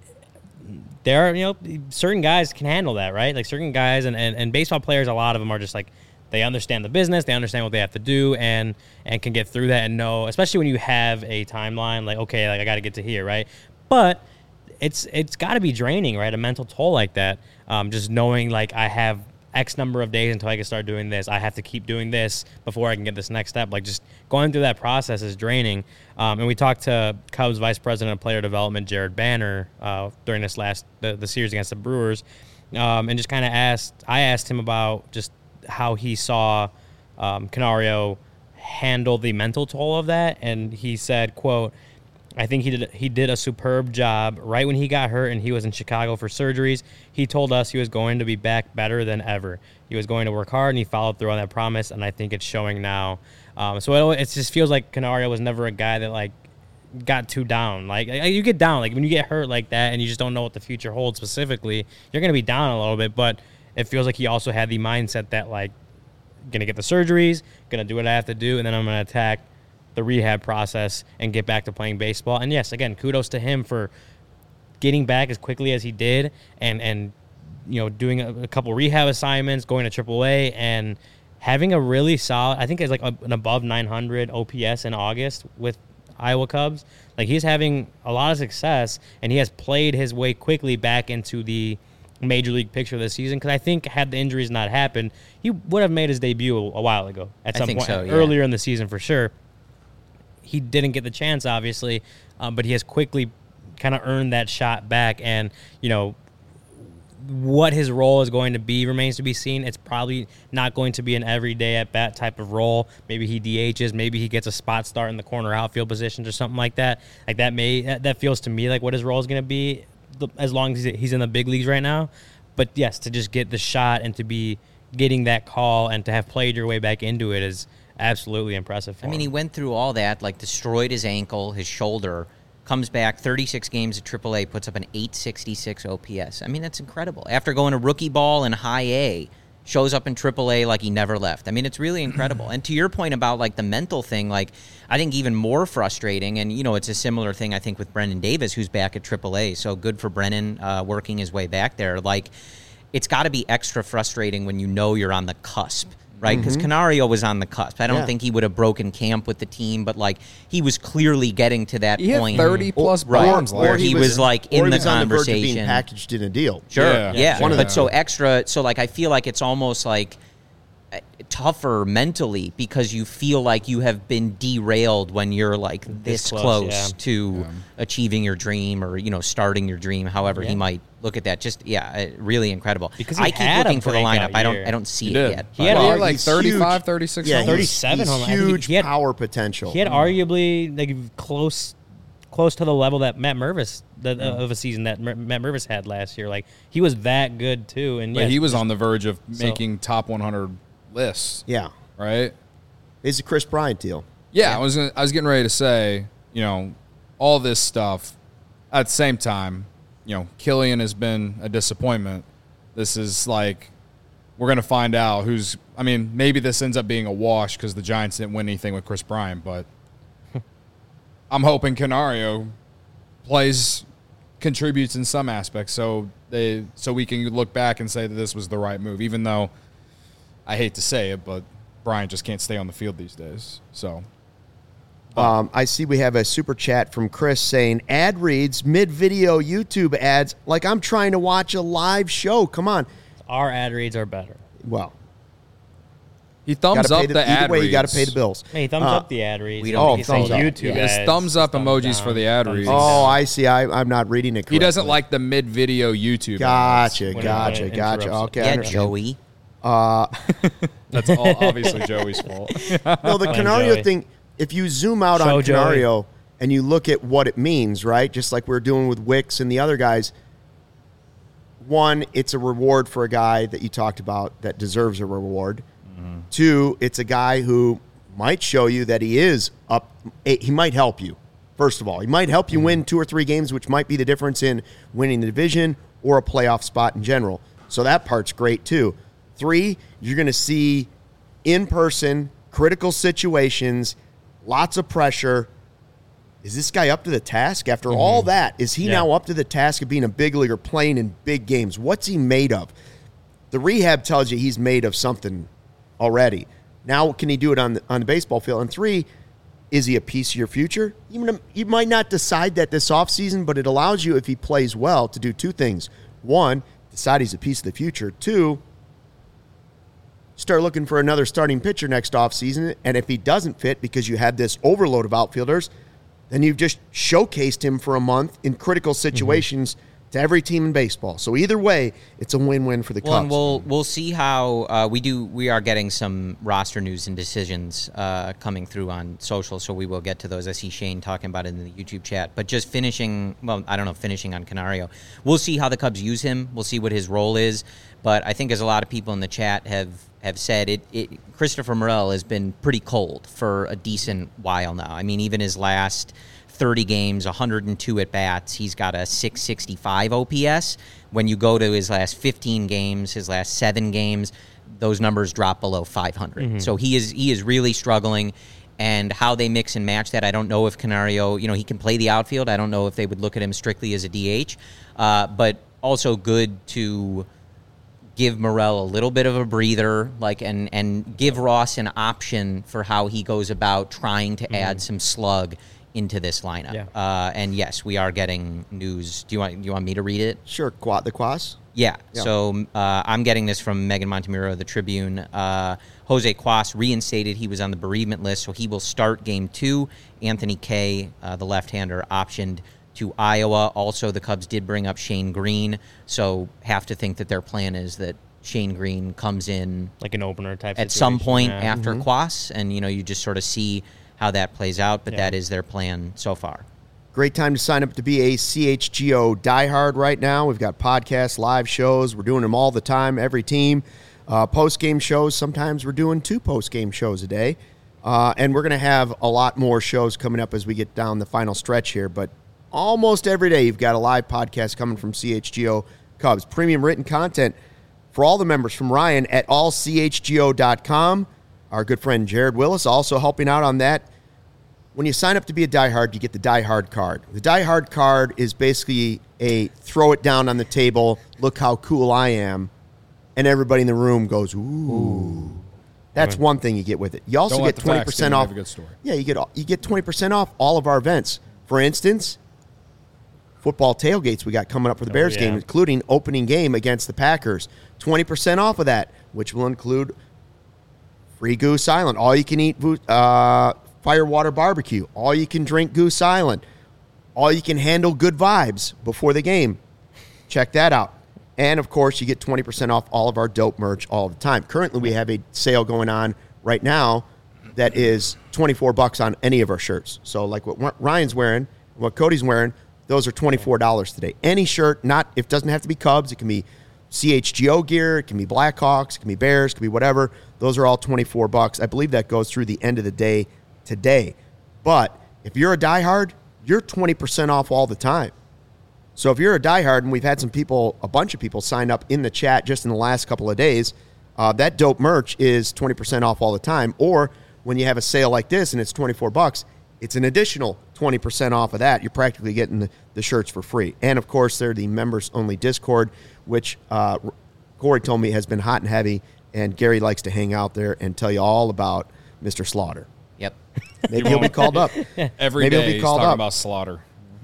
There are, you know, certain guys can handle that, right? Like certain guys and, and, and baseball players, a lot of them are just like, they understand the business, they understand what they have to do and and can get through that and know, especially when you have a timeline, like, okay, like I got to get to here, right? But it's it's got to be draining, right? A mental toll like that, um, just knowing like I have X number of days until I can start doing this. I have to keep doing this before I can get this next step. Like just going through that process is draining. Um, and we talked to Cubs Vice President of Player Development, Jared Banner, uh, during this last the, the series against the Brewers, um, and just kind of asked. I asked him about just how he saw um, Canario handle the mental toll of that, and he said, "quote." I think he did he did a superb job. Right when he got hurt and he was in Chicago for surgeries, he told us he was going to be back better than ever. He was going to work hard, and he followed through on that promise, and I think it's showing now. Um, so it, it just feels like Canario was never a guy that, like, got too down. Like, you get down. Like, when you get hurt like that and you just don't know what the future holds specifically, you're going to be down a little bit. But it feels like he also had the mindset that, like, going to get the surgeries, going to do what I have to do, and then I'm going to attack the rehab process and get back to playing baseball. And yes, again, kudos to him for getting back as quickly as he did and, and you know, doing a, a couple rehab assignments, going to triple A, and having a really solid, I think it's like a, an above nine hundred O P S in August with Iowa Cubs. Like, he's having a lot of success, and he has played his way quickly back into the major league picture this season, because I think had the injuries not happened, he would have made his debut a, a while ago at I some think point so, yeah. earlier in the season for sure. He didn't get the chance, obviously, um, but he has quickly kind of earned that shot back. And, you know, what his role is going to be remains to be seen. It's probably not going to be an everyday at-bat type of role. Maybe he D Hs. Maybe he gets a spot start in the corner outfield positions or something like that. Like, that may that, that feels to me like what his role is going to be as long as he's in the big leagues right now. But, yes, to just get the shot and to be getting that call and to have played your way back into it is absolutely impressive for I mean, him. he went through all that, like destroyed his ankle, his shoulder, comes back thirty-six games at triple A, puts up an eight sixty-six O P S. I mean, that's incredible. After going to rookie ball in high A, shows up in triple A like he never left. I mean, it's really incredible. And to your point about, like, the mental thing, like, I think even more frustrating, and, you know, it's a similar thing, I think, with Brendan Davis, who's back at triple A. So good for Brennan uh, working his way back there. Like, it's got to be extra frustrating when you know you're on the cusp. Right, because mm-hmm. Canario was on the cusp. I don't Yeah. think he would have broken camp with the team, but like he was clearly getting to that He point. had thirty plus Or- bombs or last Or he year. was, like, or in he the was on the verge of conversation. being packaged in a deal. Sure, Yeah. yeah. One of but the- so extra, so like I feel like it's almost like uh, tougher mentally because you feel like you have been derailed when you're like this, This close, close, yeah. to achieving your dream or, you know, starting your dream, however he Yeah. might look at that. Just, yeah, uh, really incredible. Because he I keep had a looking for the lineup. breakout I don't year. I don't see He it did. yet. He had He a- had like he's thirty-five, huge. thirty-six Yeah, homers. he's, thirty-seven he's home runs. I think huge he had- power potential. He had arguably like close, close to the level that Matt Mervis the, uh, of a season that Mer- Matt Mervis had last year. Like, he was that good too, and But yeah, he was just- on the verge of So- making top one hundred lists, Yeah, right? it's a Chris Bryant deal. Yeah, I was gonna, I was getting ready to say, you know, all this stuff. At the same time, you know, Killian has been a disappointment. This is like we're going to find out who's – I mean, maybe this ends up being a wash because the Giants didn't win anything with Chris Bryant, but I'm hoping Canario plays – contributes in some aspects so they so we can look back and say that this was the right move, even though I hate to say it, but Bryant just can't stay on the field these days. So um, I see we have a super chat from Chris saying ad reads mid-video YouTube ads like I'm trying to watch a live show. Come on. Our ad reads are better. Well, he thumbs up the, the either ad way, reads. you got to pay the bills. Hey, thumbs Uh, up the ad reads. we We don't don't oh, think thumbs up. YouTube Yes, ads. thumbs up thumbs emojis down, for the ad thumbs reads. down. Oh, I see. I, I'm not reading it correctly. He doesn't like the mid-video YouTube Gotcha, ads. When it- gotcha, when it gotcha. interrupts Okay, I Yeah, understand. Joey. That's all obviously Joey's fault. No, the Fine, Canario Joey. thing, if you zoom out Show on Joey. Canario and you look at what it means, right, just like we're doing with Wicks and the other guys, one, it's a reward for a guy that you talked about that deserves a reward. Mm-hmm. Two, it's a guy who might show you that he is up. He might help you, first of all. He might help you Mm-hmm. win two or three games, which might be the difference in winning the division or a playoff spot in general. So that part's great, too. Three, you're going to see in-person, critical situations, lots of pressure. Is this guy up to the task? After all that, is he Yeah. now up to the task of being a big leaguer, playing in big games? What's he made of? The rehab tells you he's made of something already. Now, can he do it on the, on the baseball field? And three, is he a piece of your future? You, you might not decide that this offseason, but it allows you, if he plays well, to do two things. One, decide he's a piece of the future. Two, start looking for another starting pitcher next offseason. And if he doesn't fit because you had this overload of outfielders, then you've just showcased him for a month in critical situations to every team in baseball. So either way, it's a win-win for the Well, Cubs. and we'll we'll see how uh, we do. We are getting some roster news and decisions uh, coming through on social, so we will get to those. I see Shane talking about it in the YouTube chat. But just finishing, well, I don't know, finishing on Canario. We'll see how the Cubs use him. We'll see what his role is. But I think, as a lot of people in the chat have have said, it, it Christopher Morel has been pretty cold for a decent while now. I mean, even his last thirty games, one hundred two at bats, he's got a six sixty-five O P S. When you go to his last fifteen games, his last seven games, those numbers drop below five hundred. Mm-hmm. So he is he is really struggling. And how they mix and match that, I don't know if Canario, you know, he can play the outfield. I don't know if they would look at him strictly as a D H. Uh, but also good to give Morel a little bit of a breather, like, and and give Ross an option for how he goes about trying to mm-hmm. add some slug into this lineup. Yeah. Uh, and yes, we are getting news. Do you want do you want me to read it? Sure, Quad, the Quas. Yeah. Yeah. So uh, I'm getting this from Megan Montemuro of the Tribune. Uh, Jose Quas reinstated. He was on the bereavement list, so he will start game two. Anthony Kay, uh, the left-hander, optioned to Iowa. Also, the Cubs did bring up Shane Green, so have to think that their plan is that Shane Green comes in Like an opener type at some situation, point yeah. after Quas, and you know you just sort of see how that plays out. But Yeah. that is their plan so far. Great time to sign up to be a C H G O diehard right now. We've got podcasts, live shows. We're doing them all the time, every team. Uh, post-game shows. Sometimes we're doing two post-game shows a day. Uh, and we're going to have a lot more shows coming up as we get down the final stretch here. But almost every day you've got a live podcast coming from C H G O Cubs. Premium written content for all the members from Ryan at all c h g o dot com. Our good friend Jared Willis also helping out on that. When you sign up to be a diehard, you get the diehard card. The diehard card is basically a throw it down on the table, look how cool I am, and everybody in the room goes, ooh. ooh. That's one thing you get with it. You also Don't get let the twenty facts percent give you off. a good story. Yeah, you get you get twenty percent off all of our events. For instance, football tailgates we got coming up for the Oh, Bears yeah. game, including opening game against the Packers. twenty percent off of that, which will include free Goose Island, all you can eat uh, Firewater Barbecue, all you can drink Goose Island, all you can handle good vibes before the game. Check that out. And, of course, you get twenty percent off all of our dope merch all the time. Currently, we have a sale going on right now that is twenty-four bucks on any of our shirts. So, like what Ryan's wearing, what Cody's wearing, those are twenty-four dollars today. Any shirt, not it doesn't have to be Cubs. It can be C H G O gear. It can be Blackhawks. It can be Bears. It can be whatever. Those are all twenty-four bucks. I believe that goes through the end of the day today. But if you're a diehard, you're twenty percent off all the time. So if you're a diehard, and we've had some people, a bunch of people sign up in the chat just in the last couple of days, uh, that dope merch is twenty percent off all the time. Or when you have a sale like this and it's twenty-four bucks, it's an additional twenty percent off of that. You're practically getting the, the shirts for free. And, of course, they're the members-only Discord, which uh, Corey told me has been hot and heavy, and Gary likes to hang out there and tell you all about Mister Slaughter. Yep. Maybe he'll be called up. Every Maybe day he'll be he's called talking up. about Slaughter.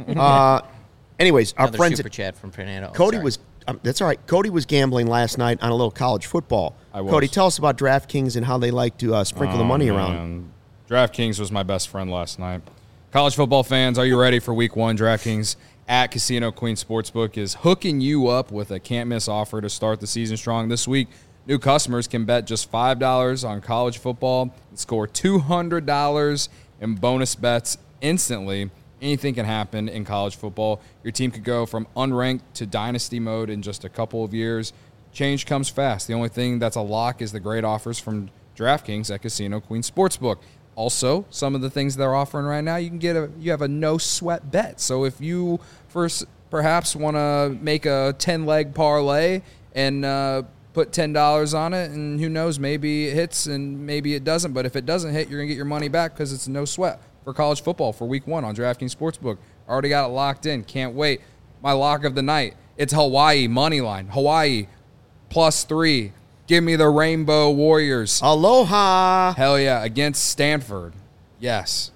Uh, anyways, our Another friends super at chat from Fernando. Oh, Cody sorry. was um, that's all right. Cody was gambling last night on a little college football. I was. Cody, tell us about DraftKings and how they like to uh, sprinkle the Oh, money around. man. DraftKings was my best friend last night. College football fans, are you ready for week one? DraftKings at Casino Queen Sportsbook is hooking you up with a can't-miss offer to start the season strong. This week, new customers can bet just five dollars on college football and score two hundred dollars in bonus bets instantly. Anything can happen in college football. Your team could go from unranked to dynasty mode in just a couple of years. Change comes fast. The only thing that's a lock is the great offers from DraftKings at Casino Queen Sportsbook. Also, some of the things they're offering right now, you can get a you have a no sweat bet. So if you first perhaps want to make a ten leg parlay and uh, put ten dollars on it, and who knows, maybe it hits and maybe it doesn't. But if it doesn't hit, you're gonna get your money back because it's no sweat for college football for week one on DraftKings Sportsbook. Already got it locked in. Can't wait. My lock of the night. It's Hawaii money line. Hawaii plus three. Give me the Rainbow Warriors. Aloha. Hell yeah, against Stanford. Yes.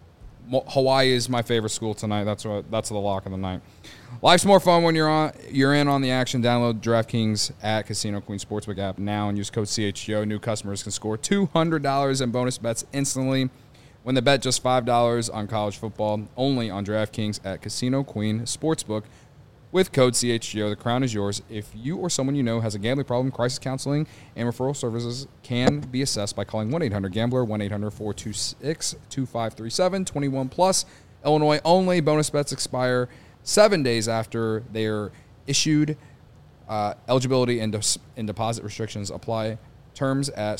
Mo- Hawaii is my favorite school tonight. That's what that's the lock of the night. Life's more fun when you're on you're in on the action. Download DraftKings at Casino Queen Sportsbook app now and use code C H G O. New customers can score two hundred dollars in bonus bets instantly when they bet just five dollars on college football, only on DraftKings at Casino Queen Sportsbook. With code C H G O, the crown is yours. If you or someone you know has a gambling problem, crisis counseling and referral services can be assessed by calling one eight hundred gambler, one eight hundred four two six two five three seven, twenty-one plus. Illinois only. Bonus bets expire seven days after they are issued. Uh, eligibility and, de- and deposit restrictions apply. Terms at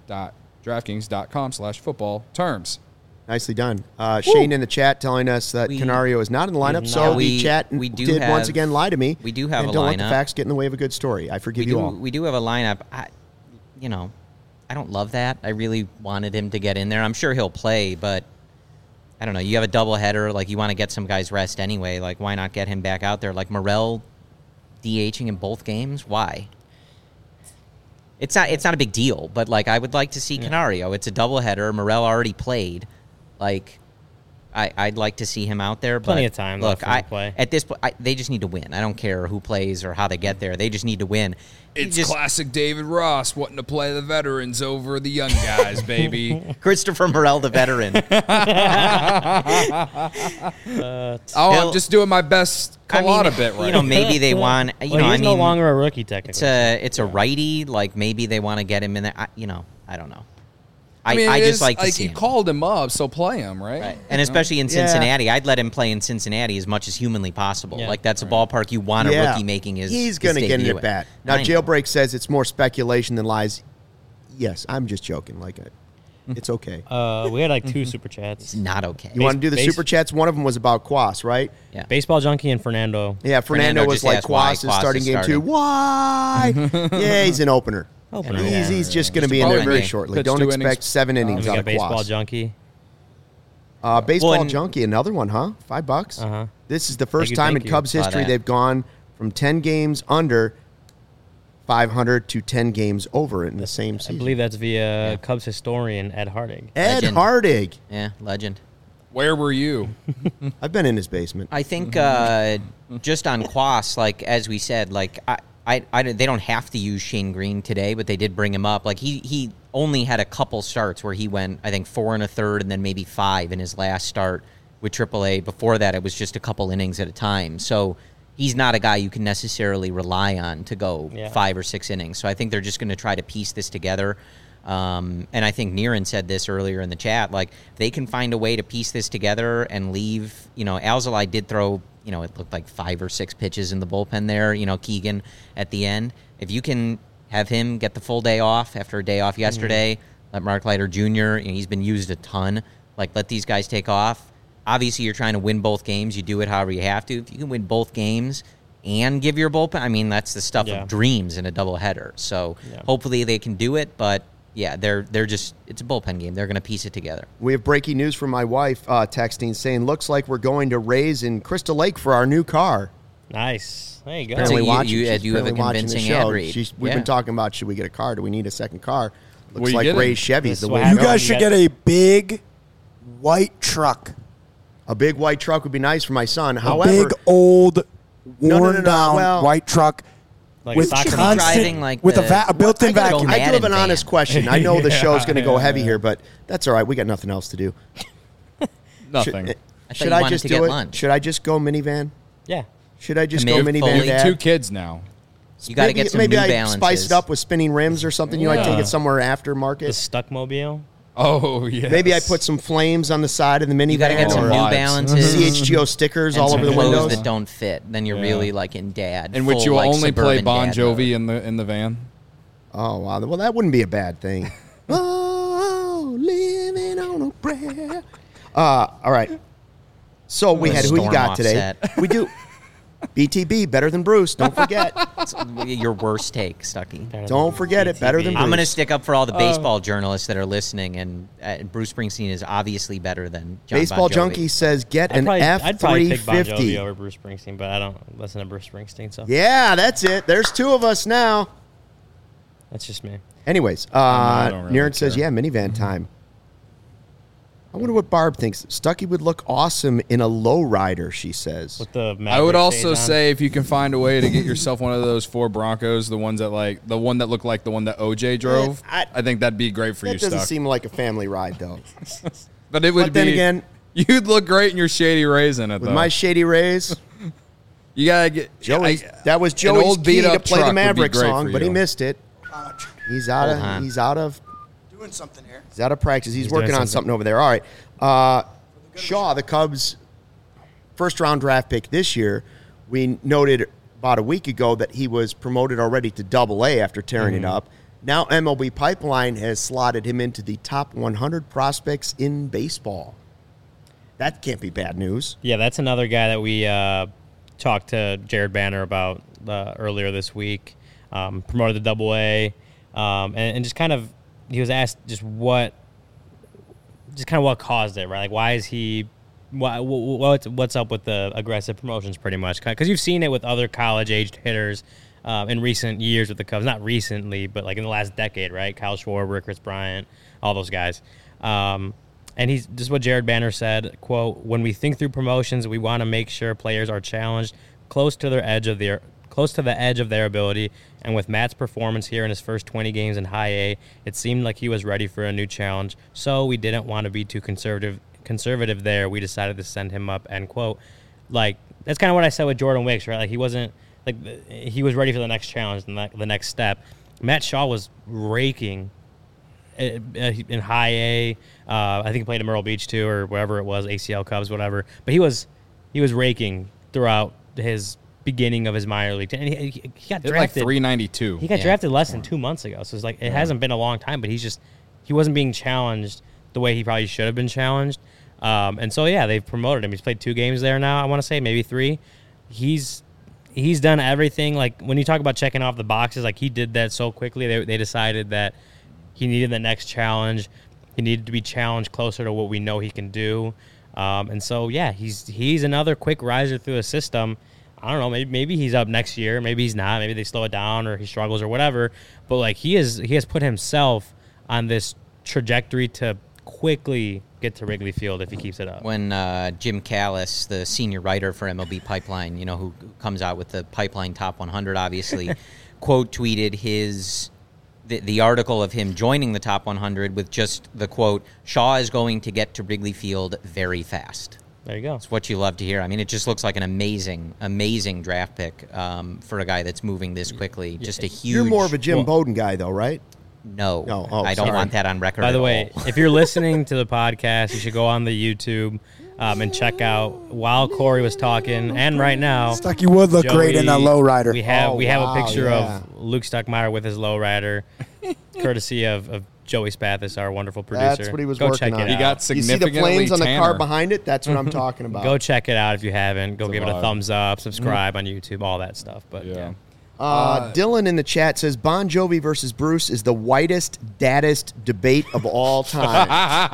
sportsbook.draftkings.com slash football terms. Nicely done. Uh, Shane in the chat telling us that We- Canario is not in the lineup, He's so not. the We- chat we do did once have- again lie to me. we do have and a don't let the lineup. facts get in the way of a good story. I forgive we you do all. we do have a lineup. I, you know, I don't love that. I really wanted him to get in there. I'm sure he'll play, but I don't know. You have a doubleheader, like you want to get some guys rest anyway. Like why not get him back out there? Like Morrell DHing in both games. Why? It's not. It's not a big deal, but like I would like to see Canario. It's a doubleheader. Morrell already played. Like. I, I'd like to see him out there, but Plenty of time look, left for him I, to play. at this point, I, they just need to win. I don't care who plays or how they get there. They just need to win. You It's just, classic David Ross wanting to play the veterans over the young guys, baby. Christopher Morrell, the veteran. Uh, Oh, He'll- I'm just doing my best I mean, Colada bit right You know, now. maybe they want. You well, know, he's I no mean, longer a rookie it's technically. a it's a righty. Like maybe they want to get him in there. I, you know, I don't know. I, I mean, I it just is, like to like see you him. called him up, so play him, right? Right. And especially in Yeah. Cincinnati, I'd let him play in Cincinnati as much as humanly possible. Yeah. Like that's a ballpark you want a Yeah. rookie making his. He's his going to get in debut at bat. Now, I know. Jailbreak says it's more speculation than lies. Yes, I'm just joking. Like, I, it's okay. uh, we had like two super chats. It's not okay. You want to do the base- super chats? One of them was about Quas, right? Yeah. Baseball Junkie and Fernando. Yeah, Fernando, Fernando was just like, asked why Quas is Quas starting is game two. starting. Why? Yeah, he's an opener. Opener. He's, Yeah. he's just going to Just be a in there bullpen very game. shortly. Pitch Don't two expect innings. seven And innings we out got of Baseball Quas. Junkie. Uh, baseball Well, and- Junkie, another one, huh? Five bucks. Uh-huh. This is the first you, time thank in you. Cubs Saw history that. they've gone from ten games under five hundred to ten games over in the same I season. believe that's via Cubs historian Ed Hardig. Ed Legend. Hardig. Yeah, legend. Where were you? I've been in his basement. I think uh, just on Quas, like as we said, like I, I, I, they don't have to use Shane Green today, but they did bring him up. Like he, he only had a couple starts where he went, I think four and a third, and then maybe five in his last start with triple A. Before that, it was just a couple innings at a time. So he's not a guy you can necessarily rely on to go Yeah. five or six innings. So I think they're just going to try to piece this together. Um, and I think Niren said this earlier in the chat, like if they can find a way to piece this together and leave, you know, Alzolay did throw, you know, it looked like five or six pitches in the bullpen there, you know, Keegan at the end. If you can have him get the full day off after a day off yesterday, let Mark Leiter Junior, you know, he's been used a ton, like let these guys take off. obviously you're trying to win both games. You do it however you have to. If you can win both games and give your bullpen, I mean, that's the stuff Yeah. of dreams in a doubleheader. So Yeah. hopefully they can do it, but yeah, they're they're just it's a bullpen game. They're going to piece it together. We have breaking news from my wife uh, texting saying, looks like we're going to Rays in Crystal Lake for our new car. Nice. There you go. That's a- Apparently you- watching- you- uh, she's do you have a apparently watching the convincing show. ad read? She's, we've Yeah. been talking about, should we get a car? Do we need a second car? Looks Well, you like get it. Ray Chevy's This the is way what to You go. guys should You get got- a big white truck. A big white truck would be nice for my son. A However, big old no, worn no, no, down well- white truck Like with a soccer Should be mom. constant driving like with a, the- va- a built-in I, gotta- vacuum. I do have an Madden honest van. question. I know the show's going to go Yeah. heavy here, but that's all right. We got nothing else to do. Nothing. Should, I thought should you I wanted just to do get it? lunch. Should I just go minivan? Yeah. Should I just Commit go minivan, fully. Dad? Two kids now. You got to maybe get some maybe New I Balances. spice it up with spinning rims or something. You know, I take Yeah. it somewhere The aftermarket. Stuckmobile. Oh, yeah. Maybe I put some flames on the side of the minivan. You got to get some or New lights. Balances. C H G O stickers and all some over the clothes windows. that don't fit. Then you're Yeah. really like in dad. in which full, you will like, only play suburban Bon dad Jovi mode. in the in the van. Oh wow! Well, that wouldn't be a bad thing. oh, living on a prayer. Uh, all right. So we had who you Storm got today? offset. We do. B T B better than Bruce. Don't forget. It's your worst take, Stucky. Don't forget it. Better than Bruce. I'm going to stick up for all the Uh, baseball journalists that are listening, and uh, Bruce Springsteen is obviously better than John Baseball Bon Jovi. Junkie says get I'd an probably, F I'd probably three pick Bon Jovi fifty. over Bruce Springsteen, but I don't listen to Bruce Springsteen, so Yeah, that's it. There's two of us now. that's just me. Anyways, uh, I don't really Niren says, care. yeah, minivan time. I wonder what Barb thinks. Stucky would look awesome in a lowrider, she says. With the I would Maverick also shades on. say if you can find a way to get yourself one of those four Broncos, the ones that like the one that looked like the one that O J drove, I- I, think that'd be great for That you, doesn't Stuck. seem like a family ride, though. But it would But then be again- you'd look great in your shady Rays in it With though. my Shady Rays, you gotta get Joey, I- that was an Joey's old key to beat-up play the truck would be Maverick great song, for but he you. missed it. He's out Hold of on. he's out of Doing something here. he's out of practice. He's, He's working doing on something. something over there. All right. Uh, Shaw, the Cubs' first round draft pick this year, we noted about a week ago that he was promoted already to double A after tearing Mm-hmm. it up. Now M L B Pipeline has slotted him into the top one hundred prospects in baseball. That can't be bad news. Yeah, that's another guy that we uh, talked to Jared Banner about uh, earlier this week. Um, promoted to Double A, um, and, and just kind of he was asked just what, just kind of what caused it, right? Like, why is he? Why, what's what's up with the aggressive promotions? Pretty much because you've seen it with other college-aged hitters uh, in recent years with the Cubs. Not recently, but like in the last decade, right? Kyle Schwarber, Chris Bryant, all those guys. Um, And he's just what Jared Banner said, quote, when we think through promotions, we want to make sure players are challenged close to their edge of their close to the edge of their ability. And with Matt's performance here in his first twenty games in high A, it seemed like he was ready for a new challenge. So we didn't want to be too conservative conservative there. We decided to send him up, end quote. Like, that's kind of what I said with Jordan Wicks, right? Like, he wasn't like he was ready for the next challenge, the the next step. Matt Shaw was raking in high A. Uh, I think he played at Myrtle Beach too, or wherever it was, A C L Cubs, whatever. But he was he was raking throughout his beginning of his minor league. And he, he, he got Hit like drafted. three ninety-two. He got Yeah. drafted less than two months ago. So it's like it hasn't been a long time, but he's just he wasn't being challenged the way he probably should have been challenged. Um, and so yeah, they've promoted him. He's played two games there now. I want to say maybe three. He's he's done everything. Like when you talk about checking off the boxes, like he did that so quickly. They they decided that he needed the next challenge. He needed to be challenged closer to what we know he can do. Um, and so, yeah, he's he's another quick riser through the system. I don't know, maybe maybe he's up next year. Maybe he's not. Maybe they slow it down or he struggles or whatever. But, like, he is he has put himself on this trajectory to quickly get to Wrigley Field if he keeps it up. When uh, Jim Callis, the senior writer for M L B Pipeline, you know, who comes out with the Pipeline Top one hundred, obviously, quote tweeted his the, the article of him joining the Top one hundred with just the quote, Shaw is going to get to Wrigley Field very fast. There you go. It's what you love to hear. I mean, it just looks like an amazing, amazing draft pick um, for a guy that's moving this quickly. Just a huge. You're more of a Jim well- Bowden guy, though, right? No, No, oh, I don't sorry. want that on record. By the at way, all. if you're listening to the podcast, you should go on the YouTube um, and check out while Corey was talking, and right now, Stucky would look great in that Joey- lowrider. We have Oh, we have wow, a picture yeah. of Luke Stuckmeyer with his lowrider, courtesy of, of Joey Spathis, our wonderful producer. That's what he was Go working check on. it He out. got You see the significantly flames on the car tanner. behind it? That's what I'm talking about. Go check it out if you haven't. Go It's a give it a vibe. thumbs up, subscribe on YouTube, all that stuff. But yeah. Yeah. Uh, Dylan in the chat says Bon Jovi versus Bruce is the whitest, daddest debate of all time.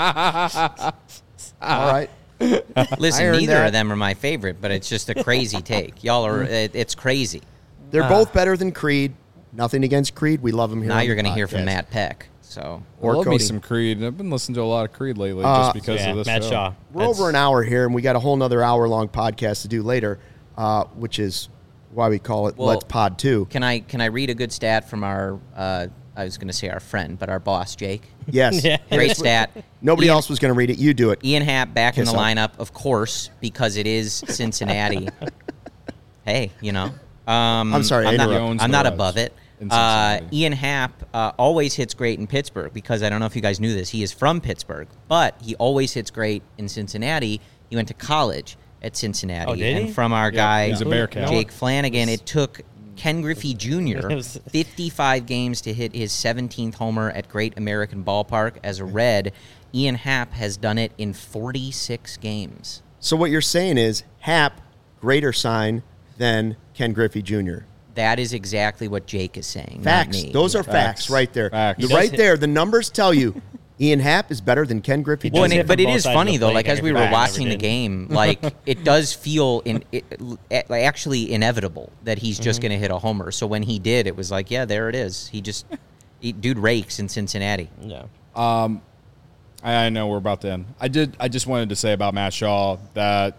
All right. Listen, I earned neither that. of them are my favorite, but it's just a crazy take. Y'all are, it, it's crazy. They're both better than Creed. Nothing against Creed. We love him here. Now on you're the going to hear from podcast. Matt Peck. So I Or love me Cody. some Creed. I've been listening to a lot of Creed lately Uh, just because Yeah, of this Matt show. Shaw. We're That's- over an hour here, and we got a whole nother hour-long podcast to do later, uh, which is why we call it Well, Let's Pod two. can I can I read a good stat from our, uh, I was going to say our friend, but our boss, Jake? Yes. Yeah. Great stat. Nobody Ian, else was going to read it. You do it. Ian Happ back in Kiss the up. lineup, of course, because it is Cincinnati. Hey, you know. Um, I'm sorry, I I'm not, interrupted. He owns I'm the not Reds above it. in Uh, Cincinnati. Ian Happ uh, always hits great in Pittsburgh because I don't know if you guys knew this. He is from Pittsburgh, but he always hits great in Cincinnati. He went to college at Cincinnati. Oh, did and he? from our guy, he's a Bearcat. Jake Flanagan, it took Ken Griffey Junior It was- fifty-five games to hit his seventeenth homer at Great American Ballpark. As a Red, Ian Happ has done it in forty-six games. So what you're saying is Hap, greater sign than Ken Griffey Junior That is exactly what Jake is saying. Facts. Not me. Those are facts, Facts. right there. Facts. The- He does right hit- there, the numbers tell you Ian Happ is better than Ken Griffey He Well, does and Junior it, hit but from it both is sides of funny the though. plate Like as every we were time, watching the never did. game, like it does feel in it, it, like, actually inevitable that he's just Mm-hmm. going to hit a homer. So when he did, it was like, yeah, there it is. He just he, dude rakes in Cincinnati. Yeah. I, I know we're about to end. I did. I just wanted to say about Matt Shaw that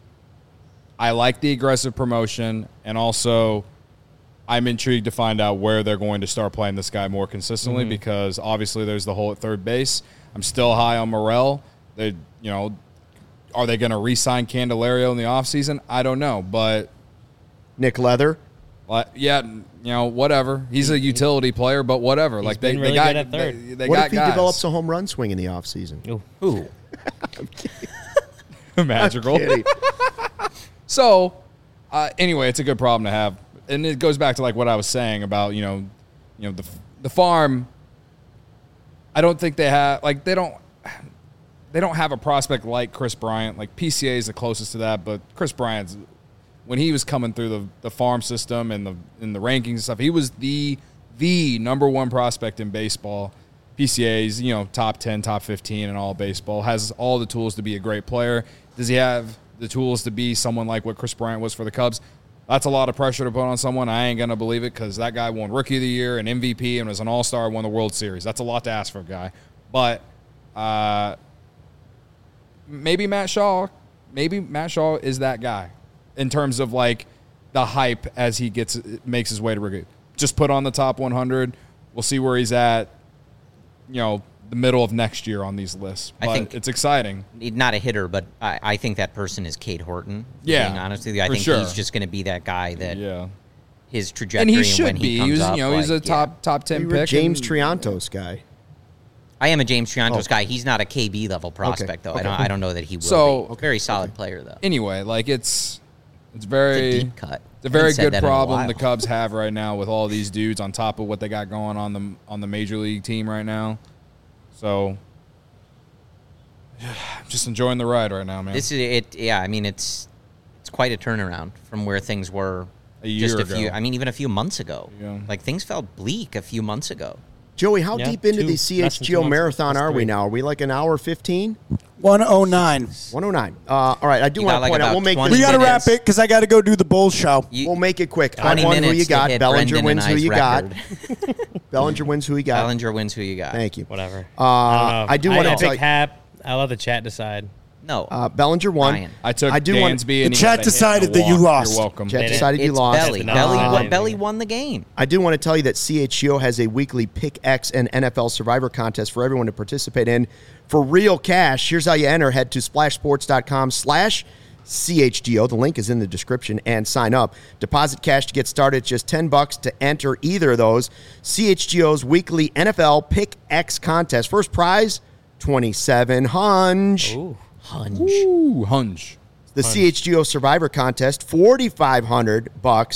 I like the aggressive promotion, and also I'm intrigued to find out where they're going to start playing this guy more consistently Mm-hmm. because obviously there's the hole at third base. I'm still high on Morel. They, you know, are they going to re-sign Candelario in the offseason? I don't know, but Nick Leather. like, yeah, you know, whatever. He's a utility player, but whatever. like they, been they really got good at third. They, they What got if he guys. develops a home run swing in the offseason? Ooh. Ooh, Magical. Kidding. So, uh, anyway, it's a good problem to have, and it goes back to like what I was saying about you know, you know the the farm. I don't think they have like they don't they don't have a prospect like Chris Bryant. Like P C A is the closest to that, but Chris Bryant's when he was coming through the, the farm system and the in the rankings and stuff, he was the the number one prospect in baseball. P C A's, you know, top ten, top fifteen in all baseball, has all the tools to be a great player. Does he have the tools to be someone like what Chris Bryant was for the Cubs? That's a lot of pressure to put on someone. I ain't going to believe it because that guy won Rookie of the Year and M V P and was an all-star, won the World Series. That's a lot to ask for a guy. But uh, maybe Matt Shaw, maybe Matt Shaw is that guy in terms of like the hype as he gets makes his way to Rookie. Just put on the top one hundred. We'll see where he's at, you know, the middle of next year on these lists. I But think- it's exciting. not a hitter, but I, I think that person is Cade Horton. Yeah, being honest with you, I for think sure. he's just going to be that guy that Yeah. his And trajectory he and should when be. he He comes was, up, you know, he's a like, top yeah. top ten You were pick. James and- Triantos guy. I am a James Triantos Oh. guy. He's not a K B level prospect though. okay. I don't. I don't know that he will. So- be. Very solid player though. Anyway, like it's it's It's very a deep cut. It's a very Haven't said good that in a problem while. the Cubs have right now with all these dudes on top of what they got going on the on the major league team right now. So I'm just enjoying the ride right now, man. This is it. Yeah, I mean it's it's quite a turnaround from where things were A year just a ago. few. I mean even a few months ago. Yeah. Like things felt bleak a few months ago. Joey, how Yeah, deep into two- the less than two C H G O months. marathon That's are we three. now? Are we like an hour fifteen? one oh nine. one oh nine. Uh, all right, I do You want got to like point out, about we'll make twenty We this, got to wrap minutes. it because I got to go do the Bulls show. You, we'll make it quick. twenty Hunt one who minutes you to got. hit Bellinger Brendan wins and who I's you got. record. Bellinger wins who you got. Bellinger wins who you got. Thank you. Whatever. Uh, I, don't know. I do want to I tell pick you. Hap. I'll let the chat decide. No. Uh, Bellinger won. Ryan. I took I do want- Dansby The and he chat got a hit decided and a that you walk. lost. You're welcome. Chat They decided you it's lost. Belly. No, Belly, no, won, no. Belly won the game. I do want to tell you that C H G O has a weekly Pick X and N F L Survivor contest for everyone to participate in for real cash. Here's how you enter. Head to splashsports.com slash CHGO. The link is in the description and sign up. Deposit cash to get started. Just ten bucks to enter either of those. C H G O's weekly N F L Pick X contest. First prize, twenty-seven hunch. Ooh. Hunch. Ooh, hunch. The C H G O Survivor contest, forty-five hundred bucks.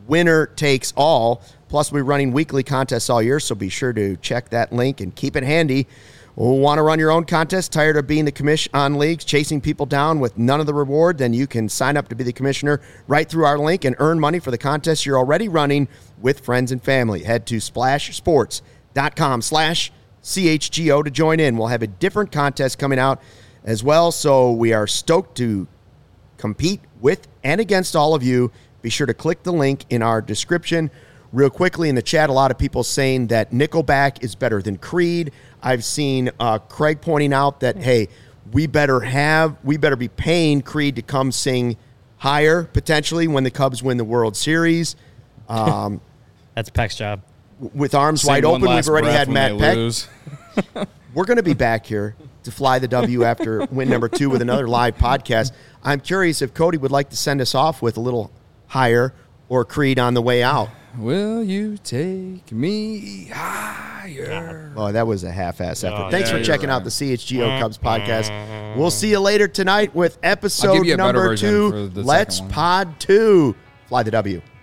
winner takes all. Plus, we're running weekly contests all year, so be sure to check that link and keep it handy. Want to run your own contest? Tired of being the commish on leagues, chasing people down with none of the reward? Then you can sign up to be the commissioner right through our link and earn money for the contest you're already running with friends and family. Head to splashsports.com slash CHGO to join in. We'll have a different contest coming out as well, so we are stoked to compete with and against all of you. Be sure to click the link in our description. Real quickly in the chat, a lot of people saying that Nickelback is better than Creed. I've seen uh, Craig pointing out that, hey, we better have, we better be paying Creed to come sing higher, potentially, when the Cubs win the World Series. Um, That's Peck's job. With arms Sing wide one open, last we've already breath had when Matt they Peck. lose. We're going to be back here to fly the W after win number two with another live podcast. I'm curious if Cody would like to send us off with a little higher or Creed on the way out. Will you take me higher? Oh, that was a half-ass effort. Oh, Thanks yeah, for checking you're out right. the C H G O Cubs podcast. We'll see you later tonight with I'll episode give you a better number version two. for the Let's second one. Pod two. Fly the W.